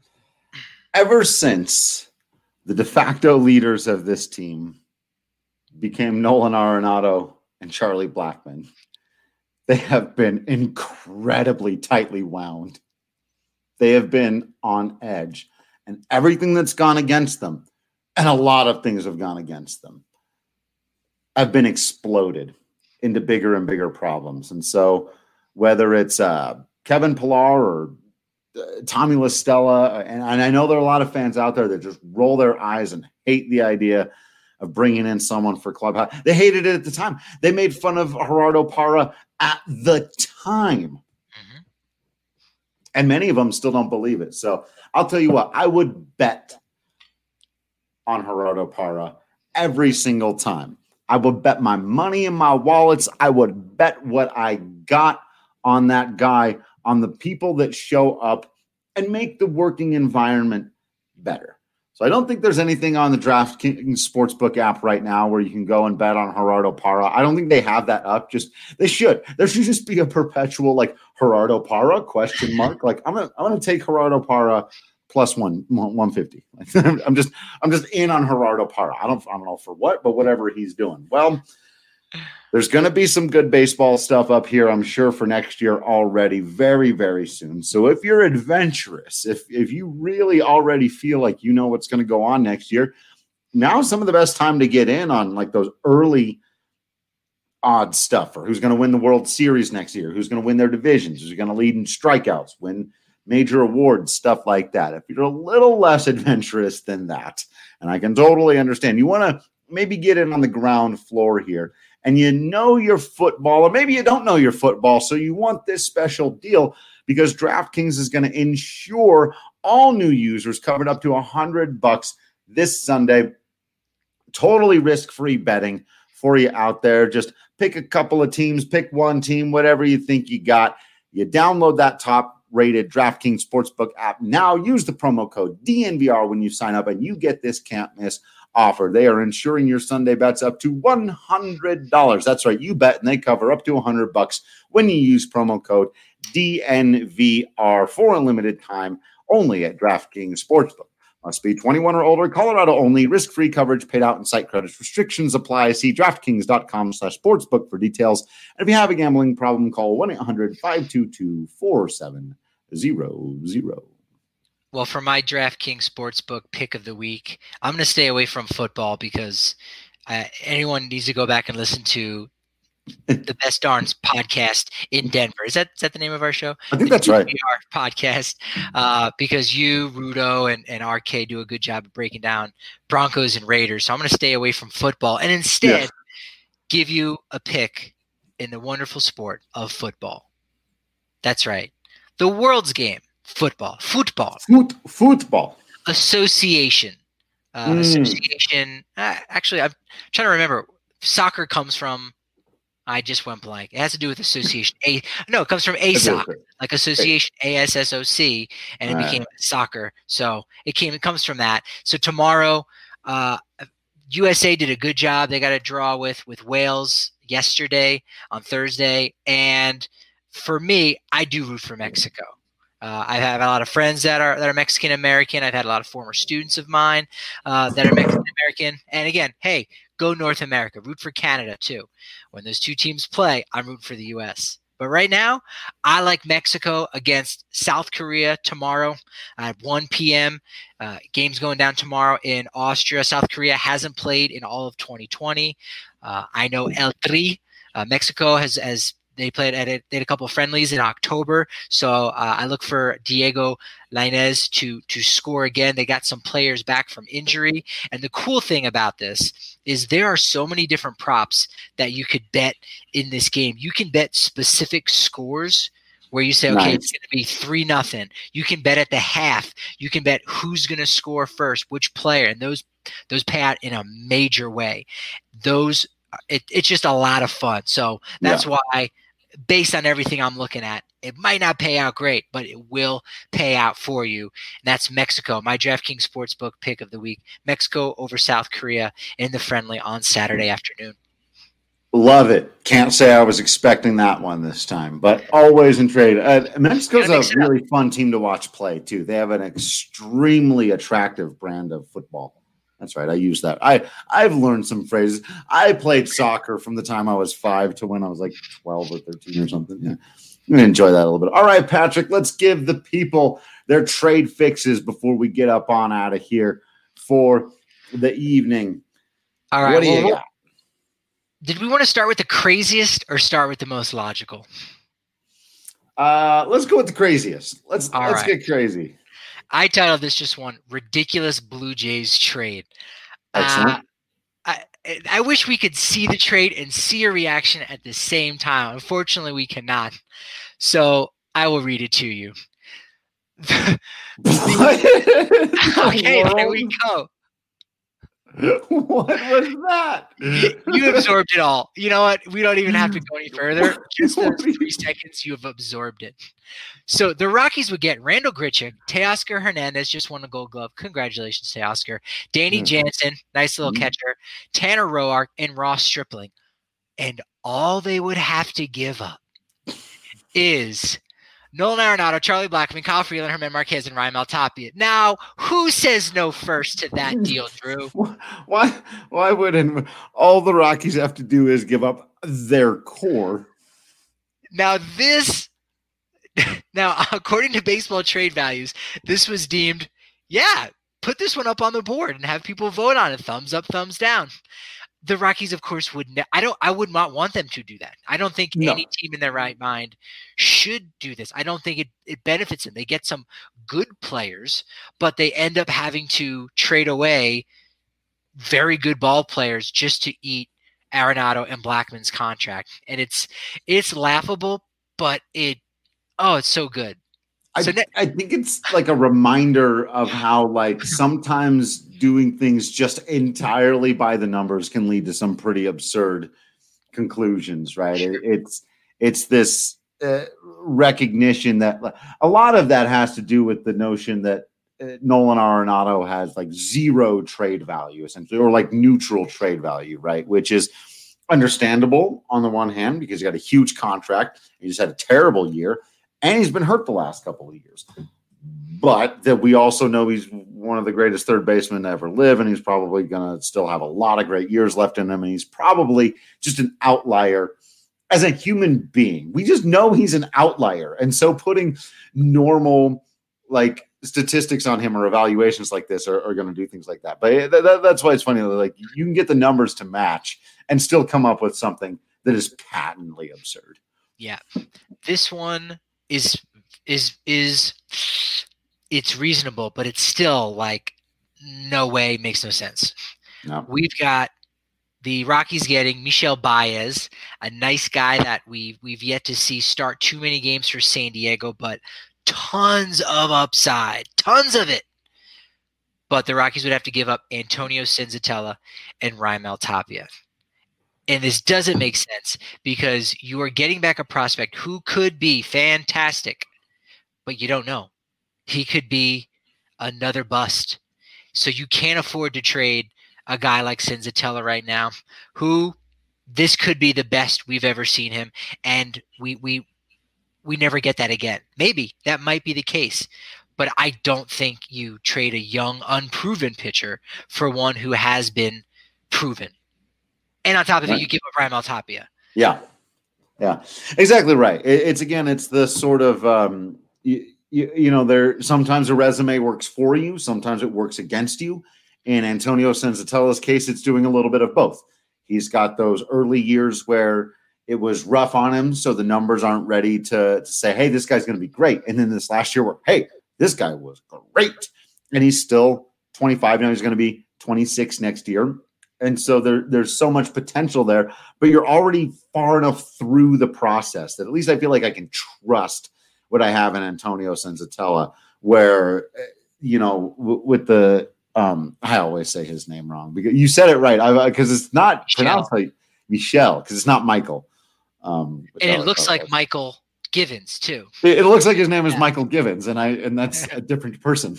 Ever since the de facto leaders of this team became Nolan Arenado and Charlie Blackmon, they have been incredibly tightly wound. They have been on edge, and everything that's gone against them, and a lot of things have gone against them, have been exploded into bigger and bigger problems. And so whether it's Kevin Pillar or Tommy La Stella, and I know there are a lot of fans out there that just roll their eyes and hate the idea of bringing in someone for clubhouse. They hated it at the time. They made fun of Gerardo Parra at the time. Mm-hmm. And many of them still don't believe it. So I'll tell you what, I would bet on Gerardo Parra every single time. I would bet my money in my wallets. I would bet what I got on that guy, on the people that show up and make the working environment better. So I don't think there's anything on the DraftKings Sportsbook app right now where you can go and bet on Gerardo Parra. I don't think they have that up. They should. There should just be a perpetual like Gerardo Parra ? Like I'm gonna take Gerardo Parra plus 150. I'm just in on Gerardo Parra. I don't know for what, but whatever he's doing. Well, there's going to be some good baseball stuff up here, I'm sure, for next year already very, very soon. So if you're adventurous, if you really already feel like you know what's going to go on next year, now's some of the best time to get in on like those early odd stuff for who's going to win the World Series next year, who's going to win their divisions, who's going to lead in strikeouts, win major awards, stuff like that. If you're a little less adventurous than that, and I can totally understand, you want to maybe get in on the ground floor here, and you know your football, or maybe you don't know your football, so you want this special deal because DraftKings is going to ensure all new users covered up to $100 this Sunday. Totally risk-free betting for you out there. Just pick a couple of teams, pick one team, whatever you think you got. You download that top-rated DraftKings Sportsbook app. Now use the promo code DNVR when you sign up, and you get this can't miss offer. They are insuring your Sunday bets up to $100. That's right. You bet and they cover up to $100 when you use promo code DNVR for a limited time only at DraftKings Sportsbook. Must be 21 or older, Colorado only, risk-free coverage paid out in site credits. Restrictions apply. See DraftKings.com/sportsbook for details. And if you have a gambling problem, call 1-800-522-4700. Well, for my DraftKings Sportsbook pick of the week, I'm going to stay away from football because anyone needs to go back and listen to the Best Darns podcast in Denver. Is that the name of our show? I think that's right. Podcast, because you, Rudo, and RK do a good job of breaking down Broncos and Raiders. So I'm going to stay away from football and instead give you a pick in the wonderful sport of football. That's right. The world's game. Football. Association. Actually, I'm trying to remember. Soccer comes from. I just went blank. It has to do with association. It comes from ASOC, like association, ASSOC, and it became soccer. So it comes from that. So tomorrow, USA did a good job. They got a draw with Wales yesterday on Thursday, and for me, I do root for Mexico. I have a lot of friends that are Mexican American. I've had a lot of former students of mine that are Mexican American. And again, hey, go North America. Root for Canada too. When those two teams play, I'm rooting for the U.S. But right now, I like Mexico against South Korea tomorrow at 1 p.m. Game's going down tomorrow in Austria. South Korea hasn't played in all of 2020. I know El Tri, Mexico has they played they had a couple of friendlies in October, so I look for Diego Lainez to score again. They got some players back from injury, and the cool thing about this is there are so many different props that you could bet in this game. You can bet specific scores where you say, okay, It's going to be 3-0. You can bet at the half. You can bet who's going to score first, which player, and those pay out in a major way. It's just a lot of fun. So that's why, based on everything I'm looking at, it might not pay out great, but it will pay out for you. And that's Mexico, my DraftKings Sportsbook pick of the week. Mexico over South Korea in the friendly on Saturday afternoon. Love it. Can't say I was expecting that one this time, but always intrigued. Mexico's a really fun team to watch play, too. They have an extremely attractive brand of football. That's right. I use that. I've learned some phrases. I played soccer from the time I was 5 to when I was like 12 or 13 or something. Yeah. I'm going to enjoy that a little bit. All right, Patrick, let's give the people their trade fixes before we get up on out of here for the evening. All right. What do you got? Did we want to start with the craziest or start with the most logical? Let's go with the craziest. Let's get crazy. I titled this just one ridiculous Blue Jays trade. Excellent. I wish we could see the trade and see a reaction at the same time. Unfortunately, we cannot. So I will read it to you. Okay, there we go. What was that? You absorbed it all. You know what? We don't even have to go any further. Just those 3 seconds, you have absorbed it. So the Rockies would get Randall Grichuk, Teoscar Hernandez just won a Gold Glove. Congratulations, Teoscar. Danny Jansen, nice little catcher. Tanner Roark, and Ross Stripling. And all they would have to give up is Nolan Arenado, Charlie Blackmon, Kyle Freeland, Herman Marquez, and Raimel Tapia. Now, who says no first to that deal, Drew? Why wouldn't all the Rockies have to do is give up their core? Now, according to Baseball Trade Values, this was deemed, put this one up on the board and have people vote on it. Thumbs up, thumbs down. The Rockies, of course, I would not want them to do that. I don't think any team in their right mind should do this. I don't think it benefits them. They get some good players, but they end up having to trade away very good ball players just to eat Arenado and Blackmon's contract. And it's laughable, but it's so good. I think it's like a reminder of how like sometimes doing things just entirely by the numbers can lead to some pretty absurd conclusions, right? Sure. It's this recognition that a lot of that has to do with the notion that Nolan Arenado has like zero trade value essentially, or like neutral trade value, right? Which is understandable on the one hand because he got a huge contract. He just had a terrible year. And he's been hurt the last couple of years. But that we also know he's one of the greatest third basemen to ever live, and he's probably going to still have a lot of great years left in him, and he's probably just an outlier as a human being. We just know he's an outlier. And so putting normal like statistics on him or evaluations like this are going to do things like that. But that's why it's funny. Like you can get the numbers to match and still come up with something that is patently absurd. Yeah. This one is it's reasonable, but it's still like no way, makes no sense. No. We've got the Rockies getting Michel Baez, a nice guy that we've yet to see start too many games for San Diego, but tons of upside, tons of it. But the Rockies would have to give up Antonio Senzatella and Raimel Tapia. And this doesn't make sense because you are getting back a prospect who could be fantastic, but you don't know. He could be another bust. So you can't afford to trade a guy like Senzatella right now, who this could be the best we've ever seen him. And we never get that again. Maybe that might be the case, but I don't think you trade a young, unproven pitcher for one who has been proven. And on top of it, you give up Raimel Tapia. Yeah, exactly right. It's the sort of there sometimes a resume works for you, sometimes it works against you. In Antonio Senzatella's case, it's doing a little bit of both. He's got those early years where it was rough on him, so the numbers aren't ready to say, hey, this guy's going to be great. And then this last year where, hey, this guy was great. And he's still 25 now. He's going to be 26 next year. And so there's so much potential there, but you're already far enough through the process that at least I feel like I can trust what I have in Antonio Senzatella, where, with the I always say his name wrong because you said it right, because it's not pronounced like Michel, because it's not Michael. And it looks like Michael Givens too. It looks like his name is Michael Givens, and that's a different person.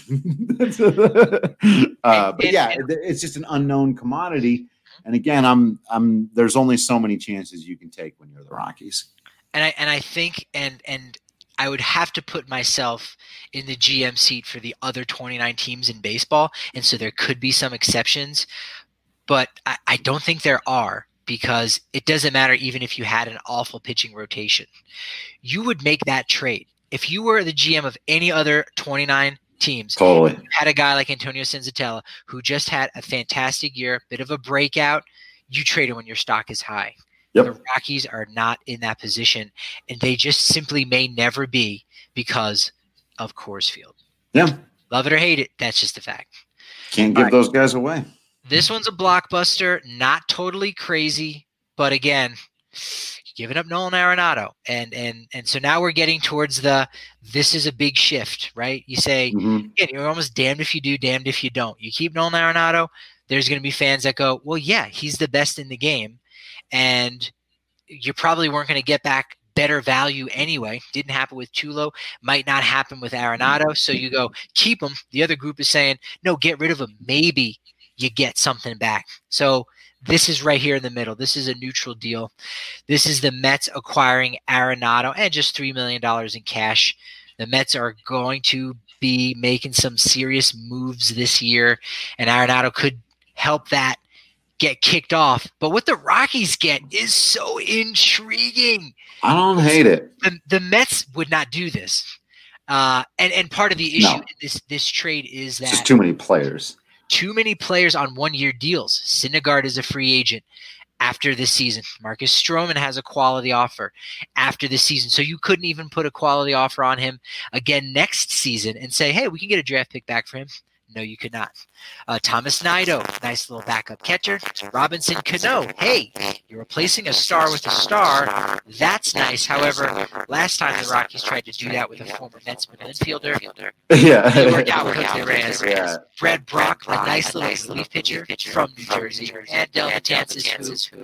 It's just an unknown commodity. And again, there's only so many chances you can take when you're the Rockies. And I think and I would have to put myself in the GM seat for the other 29 teams in baseball, and so there could be some exceptions, but I don't think there are. Because it doesn't matter even if you had an awful pitching rotation. You would make that trade. If you were the GM of any other 29 teams, totally. You had a guy like Antonio Senzatella who just had a fantastic year, bit of a breakout, you trade him when your stock is high. Yep. The Rockies are not in that position, and they just simply may never be because of Coors Field. Yeah. Love it or hate it, that's just a fact. Can't give those guys away. This one's a blockbuster, not totally crazy, but again, giving up Nolan Arenado. And so now we're getting towards this is a big shift, right? You say, again, you're almost damned if you do, damned if you don't. You keep Nolan Arenado, there's going to be fans that go, well, yeah, he's the best in the game. And you probably weren't going to get back better value anyway. Didn't happen with Tulo, might not happen with Arenado. So you go, keep him. The other group is saying, no, get rid of him. Maybe you get something back. So this is right here in the middle. This is a neutral deal. This is the Mets acquiring Arenado and just $3 million in cash. The Mets are going to be making some serious moves this year, and Arenado could help that get kicked off. But what the Rockies get is so intriguing. I don't hate it. The Mets would not do this. And part of the issue in this trade is that just too many players. Too many players on one-year deals. Syndergaard is a free agent after this season. Marcus Stroman has a quality offer after this season. So you couldn't even put a quality offer on him again next season and say, hey, we can get a draft pick back for him. No, you could not. Thomas Nido, nice little backup catcher. Robinson Cano, hey, you're replacing a star with a star. That's nice. However, last time the Rockies tried to do that with a former Mets infielder, it worked out with the Reyes. Yeah. Brad Brock, a nice little relief pitcher from New Jersey. And Del Betances, who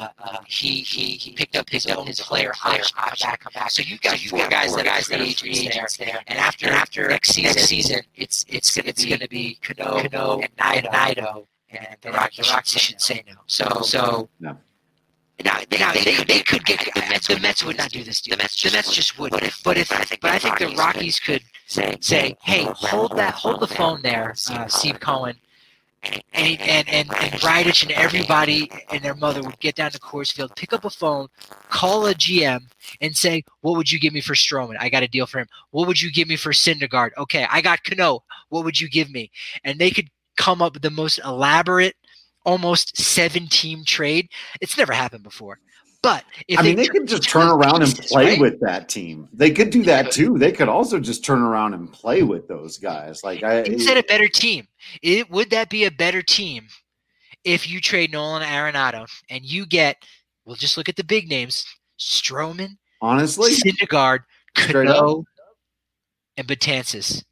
he picked up his own player option come back. So you've got four guys that are free agents there. And after next season, it's going to be Cano and Nido, and the Rockies should say no. So no. Now they could get the Mets. The Mets would not do this deal. The Mets just wouldn't. But I think the Rockies could say, hey, hold the phone there, Steve Cohen. And Bridich and everybody and their mother would get down to Coors Field, pick up a phone, call a GM, and say, what would you give me for Stroman? I got a deal for him. What would you give me for Syndergaard? Okay, I got Cano. What would you give me? And they could come up with the most elaborate, almost 7-team trade. It's never happened before. But they could just turn around and play with that team. They could do that too. They could also just turn around and play with those guys. Is that a better team? Would that be a better team if you trade Nolan Arenado and you get? Well, just look at the big names: Stroman, honestly, Syndergaard, Cano, and Betances.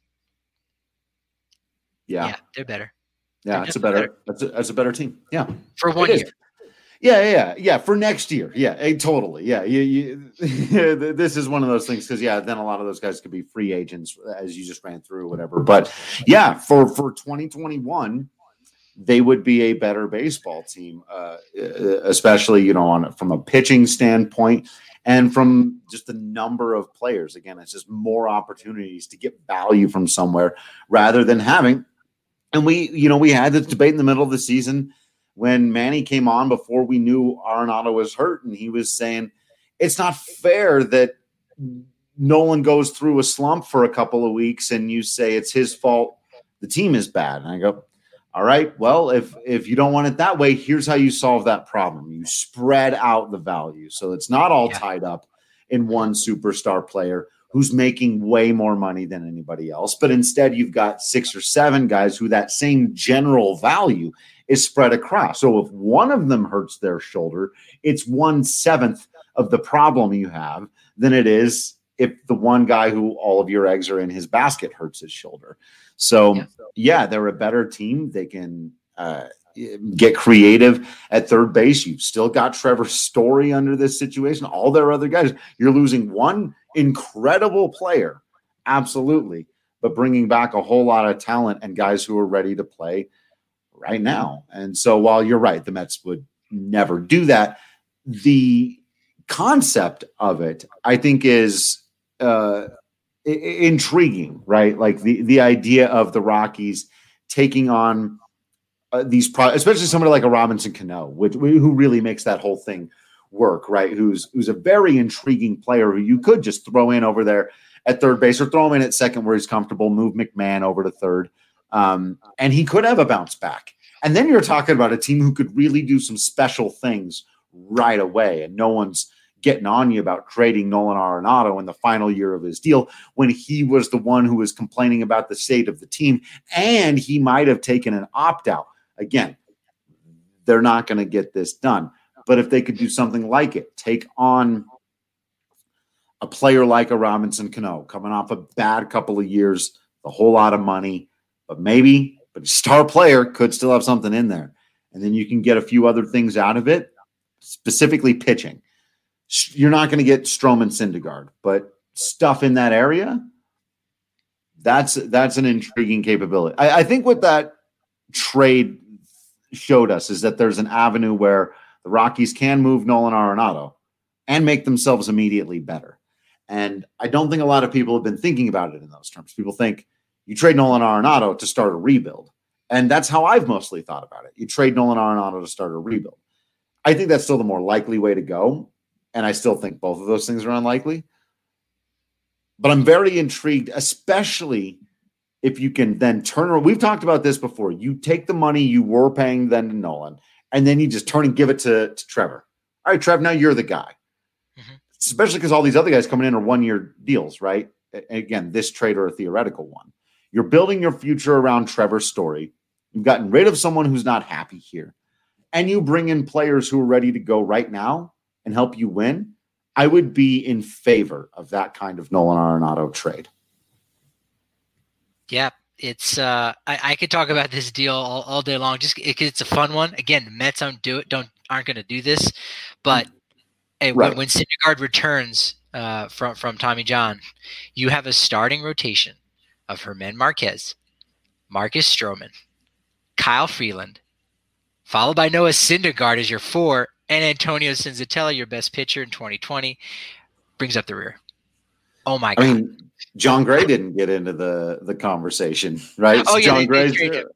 Yeah, they're better. Yeah, it's a better. That's a better team. Yeah, for 1 year. Yeah. For next year, totally. Yeah, this is one of those things because then a lot of those guys could be free agents as you just ran through or whatever. But yeah, for 2021, they would be a better baseball team, especially from a pitching standpoint and from just the number of players. Again, it's just more opportunities to get value from somewhere rather than having. And we had this debate in the middle of the season when Manny came on before we knew Arenado was hurt, and he was saying it's not fair that Nolan goes through a slump for a couple of weeks and you say it's his fault, the team is bad. And I go, All right. Well, if you don't want it that way, here's how you solve that problem. You spread out the value. So it's not all tied up in one superstar player who's making way more money than anybody else. But instead, you've got 6 or 7 guys who that same general value is spread across. So if one of them hurts their shoulder, it's 1/7 of the problem you have than it is if the one guy who all of your eggs are in his basket hurts his shoulder. So, yeah, they're a better team. They can get creative at third base. You've still got Trevor Story under this situation. All their other guys, you're losing one incredible player, absolutely, but bringing back a whole lot of talent and guys who are ready to play right now. And so while you're right, the Mets would never do that, the concept of it, I think, is intriguing, right? Like the idea of the Rockies taking on especially somebody like a Robinson Cano, who really makes that whole thing work, right? Who's a very intriguing player who you could just throw in over there at third base or throw him in at second where he's comfortable, move McMahon over to third. And he could have a bounce back. And then you're talking about a team who could really do some special things right away. And no one's getting on you about trading Nolan Arenado in the final year of his deal when he was the one who was complaining about the state of the team. And he might have taken an opt-out. Again, they're not going to get this done. But if they could do something like it, take on a player like a Robinson Cano coming off a bad couple of years, a whole lot of money, but a star player could still have something in there. And then you can get a few other things out of it, specifically pitching. You're not going to get Stroman Syndergaard, but stuff in that area, that's an intriguing capability. I think what that trade showed us is that there's an avenue where the Rockies can move Nolan Arenado and make themselves immediately better. And I don't think a lot of people have been thinking about it in those terms. People think you trade Nolan Arenado to start a rebuild. And that's how I've mostly thought about it. You trade Nolan Arenado to start a rebuild. I think that's still the more likely way to go. And I still think both of those things are unlikely. But I'm very intrigued, especially if you can then turn around. We've talked about this before. You take the money you were paying then to Nolan, and then you just turn and give it to Trevor. All right, Trev, now you're the guy. Mm-hmm. Especially because all these other guys coming in are 1-year deals, right? And again, this trade or a theoretical one. You're building your future around Trevor's Story. You've gotten rid of someone who's not happy here. And you bring in players who are ready to go right now and help you win. I would be in favor of that kind of Nolan Arenado trade. Yeah, it's I could talk about this deal all day long. Just it's a fun one. Again, the Mets aren't going to do this, but hey, right. when Syndergaard returns from Tommy John, you have a starting rotation of Germán Marquez, Marcus Stroman, Kyle Freeland, followed by Noah Syndergaard as your 4, and Antonio Senzatella, your best pitcher in 2020, brings up the rear. Oh my God! I mean, John Gray didn't get into the conversation, right? Oh, so yeah, John Gray.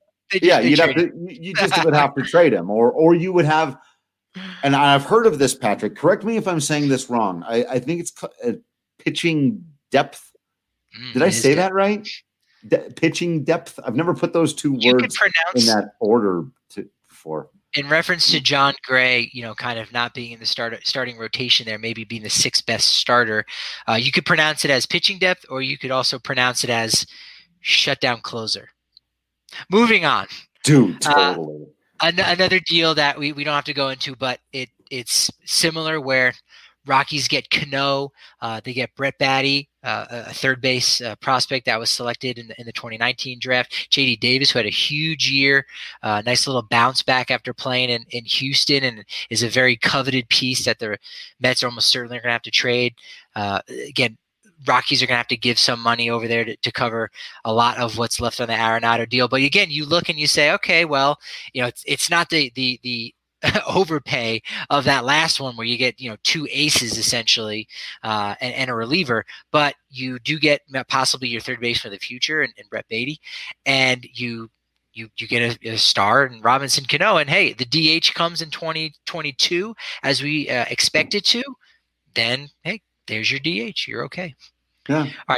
You just would have to trade him, or you would have. And I've heard of this, Patrick. Correct me if I'm saying this wrong. I think it's pitching depth. Did I say that right? Pitching depth. I've never put those two words in that order before. In reference to John Gray, kind of not being in the starting rotation there, maybe being the 6th best starter, you could pronounce it as pitching depth, or you could also pronounce it as shutdown closer. Moving on. Dude, totally. Another deal that we don't have to go into, but it's similar where Rockies get Cano, they get Brett Baty, a third base prospect that was selected in the 2019 draft. J.D. Davis, who had a huge year, nice little bounce back after playing in Houston, and is a very coveted piece that the Mets are almost certainly going to have to trade. Again, Rockies are going to have to give some money over there to cover a lot of what's left on the Arenado deal. But again, you look and you say, okay, well, it's not the overpay of that last one where you get 2 aces essentially and a reliever, but you do get possibly your third base for the future and Brett Baty, and you get a star in Robinson Cano, and hey, the DH comes in 2022 as we expect it to, then hey, there's your DH. You're okay. Yeah. All right.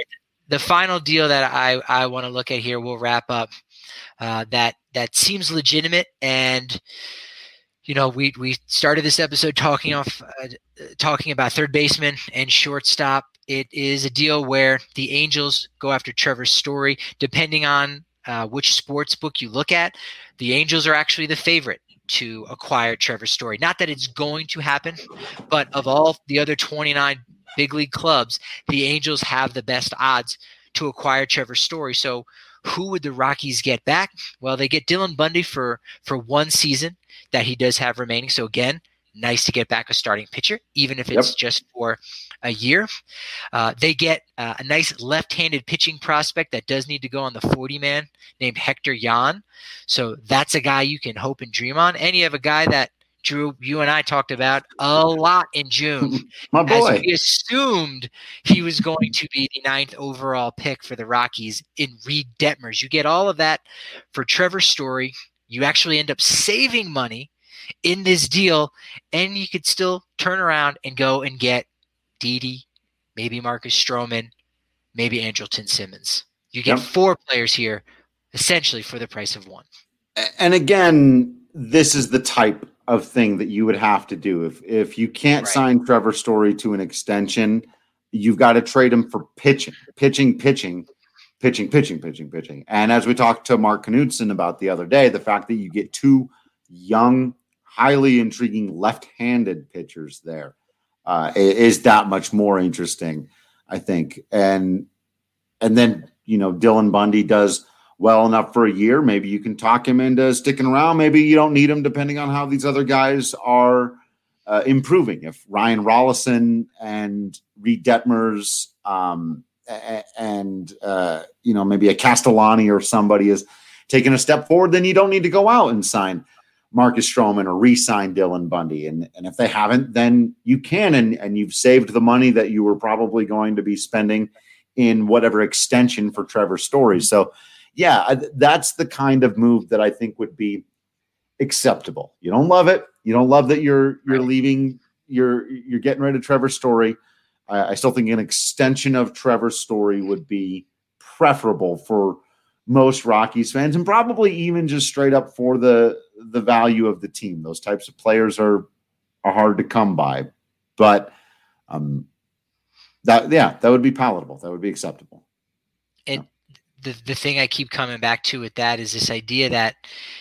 the final deal that I want to look at here, we'll wrap up, that seems legitimate. And, we started this episode talking about third baseman and shortstop. It is a deal where the Angels go after Trevor Story. Depending on which sports book you look at, the Angels are actually the favorite to acquire Trevor Story. Not that it's going to happen, but of all the other 29 big league clubs, the Angels have the best odds to acquire Trevor Story. So who would the Rockies get back? Well, they get Dylan Bundy for one season that he does have remaining. So again, nice to get back a starting pitcher, even if it's just for a year. They get a nice left-handed pitching prospect that does need to go on the 40-man named Hector Yan. So that's a guy you can hope and dream on. And you have a guy that, Drew, you and I talked about a lot in June. My boy. As we assumed he was going to be the 9th overall pick for the Rockies in Reed Detmers. You get all of that for Trevor Story. You actually end up saving money in this deal, and you could still turn around and go and get Didi, maybe Marcus Stroman, maybe Andrelton Simmons. You get 4 players here, essentially for the price of 1. And again, this is the type of thing that you would have to do. If you can't sign Trevor Story to an extension, you've got to trade him for pitching. And as we talked to Mark Knudsen about the other day, the fact that you get 2 young, highly intriguing left-handed pitchers there is that much more interesting, I think. And then, Dylan Bundy does well enough for a year. Maybe you can talk him into sticking around. Maybe you don't need him depending on how these other guys are improving. If Ryan Rollison and Reed Detmers maybe a Castellani or somebody is taking a step forward, then you don't need to go out and sign Marcus Stroman or re-sign Dylan Bundy. And if they haven't, then you can, and you've saved the money that you were probably going to be spending in whatever extension for Trevor Story. So yeah, that's the kind of move that I think would be acceptable. You don't love it. You don't love that you're leaving, you're getting rid of Trevor Story. I still think an extension of Trevor Story would be preferable for most Rockies fans, and probably even just straight up for the value of the team. Those types of players are hard to come by, but that would be palatable. That would be acceptable. And the thing I keep coming back to with that is this idea that,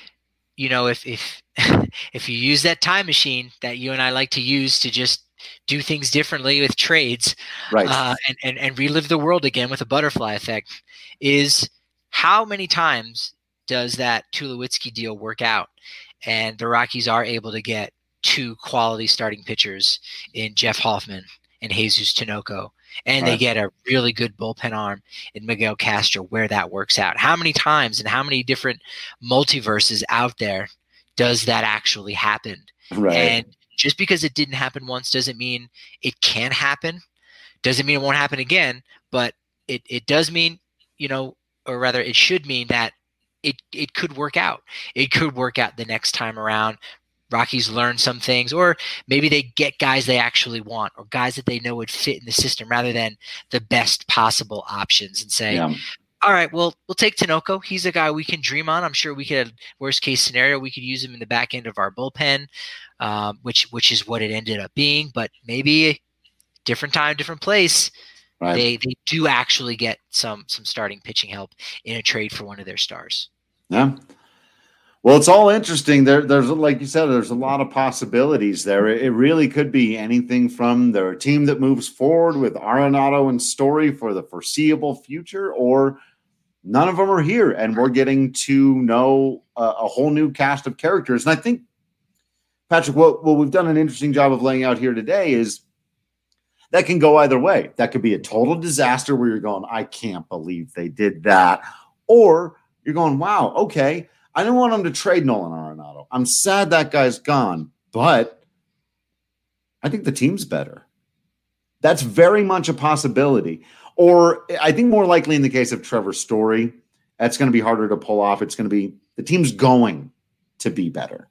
if if you use that time machine that you and I like to use to just do things differently with trades, right, and relive the world again with a butterfly effect, is how many times does that Tulowitzki deal work out? And the Rockies are able to get 2 quality starting pitchers in Jeff Hoffman and Jesus Tinoco. And they get a really good bullpen arm in Miguel Castro where that works out. How many times and how many different multiverses out there does that actually happen? Right. And just because it didn't happen once doesn't mean it can't happen. Doesn't mean it won't happen again, but it does mean, or rather it should mean that it could work out. It could work out the next time around. Rockies learn some things, or maybe they get guys they actually want, or guys that they know would fit in the system rather than the best possible options, and say, all right, well, we'll take Tinoco. He's a guy we can dream on. I'm sure we could, worst case scenario, we could use him in the back end of our bullpen, which is what it ended up being. But maybe different time, different place. Right. They do actually get some starting pitching help in a trade for one of their stars. Yeah. Well, it's all interesting. There's, like you said, there's a lot of possibilities there. It really could be anything from their team that moves forward with Arenado and Story for the foreseeable future, or none of them are here, and we're getting to know a whole new cast of characters. And I think, Patrick, what we've done an interesting job of laying out here today is that can go either way. That could be a total disaster where you're going, I can't believe they did that. Or you're going, wow, okay, I don't want them to trade Nolan Arenado. I'm sad that guy's gone, but I think the team's better. That's very much a possibility. Or I think more likely in the case of Trevor Story, that's going to be harder to pull off. It's going to be the team's going to be better.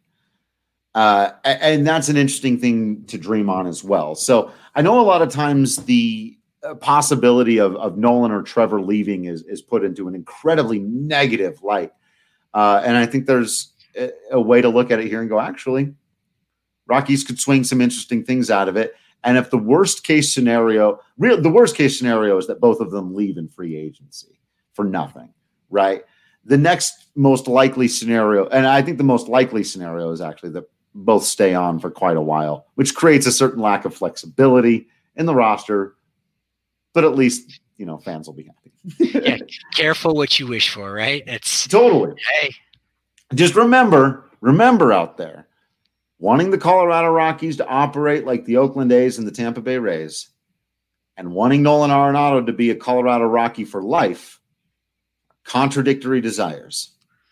And that's an interesting thing to dream on as well. So I know a lot of times the possibility of Nolan or Trevor leaving is put into an incredibly negative light. And I think there's a way to look at it here and go, actually, Rockies could swing some interesting things out of it. And if the worst case scenario is that both of them leave in free agency for nothing, right? The next most likely scenario, and I think the most likely scenario is actually that both stay on for quite a while, which creates a certain lack of flexibility in the roster, but at least, fans will be happy. Yeah, careful what you wish for, right? It's totally. Hey. Just remember out there, wanting the Colorado Rockies to operate like the Oakland A's and the Tampa Bay Rays, and wanting Nolan Arenado to be a Colorado Rocky for life, contradictory desires.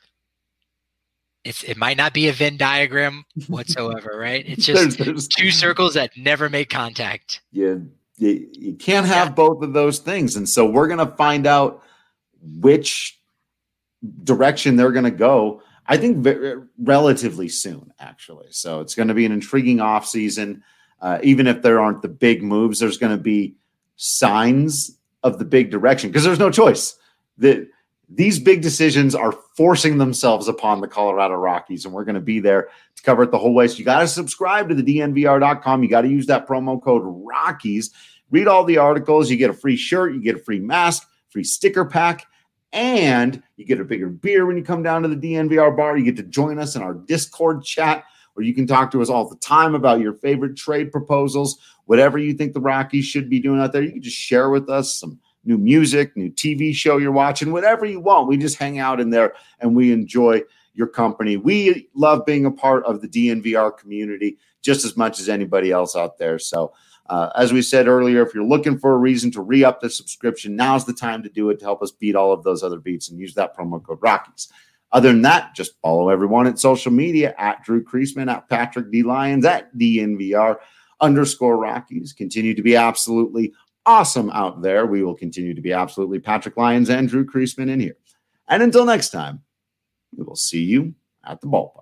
It might not be a Venn diagram whatsoever, right? It's just there's two circles that never make contact. You can't have both of those things. And so we're going to find out which direction they're going to go, I think, relatively soon, actually. So it's going to be an intriguing offseason. Even if there aren't the big moves, there's going to be signs of the big direction because there's no choice. These big decisions are forcing themselves upon the Colorado Rockies, and we're going to be there to cover it the whole way. So you got to subscribe to the DNVR.com. You got to use that promo code Rockies. Read all the articles. You get a free shirt. You get a free mask, free sticker pack, and you get a bigger beer when you come down to the DNVR bar. You get to join us in our Discord chat where you can talk to us all the time about your favorite trade proposals, whatever you think the Rockies should be doing out there. You can just share with us some new music, new TV show you're watching, whatever you want. We just hang out in there and we enjoy your company. We love being a part of the DNVR community just as much as anybody else out there. So as we said earlier, if you're looking for a reason to re-up the subscription, now's the time to do it to help us beat all of those other beats and use that promo code Rockies. Other than that, just follow everyone at social media at Drew Creasman, at Patrick D. Lyons, at DNVR_Rockies. Continue to be absolutely awesome out there. We will continue to be absolutely Patrick Lyons and Drew Creasman in here. And until next time, we will see you at the ballpark.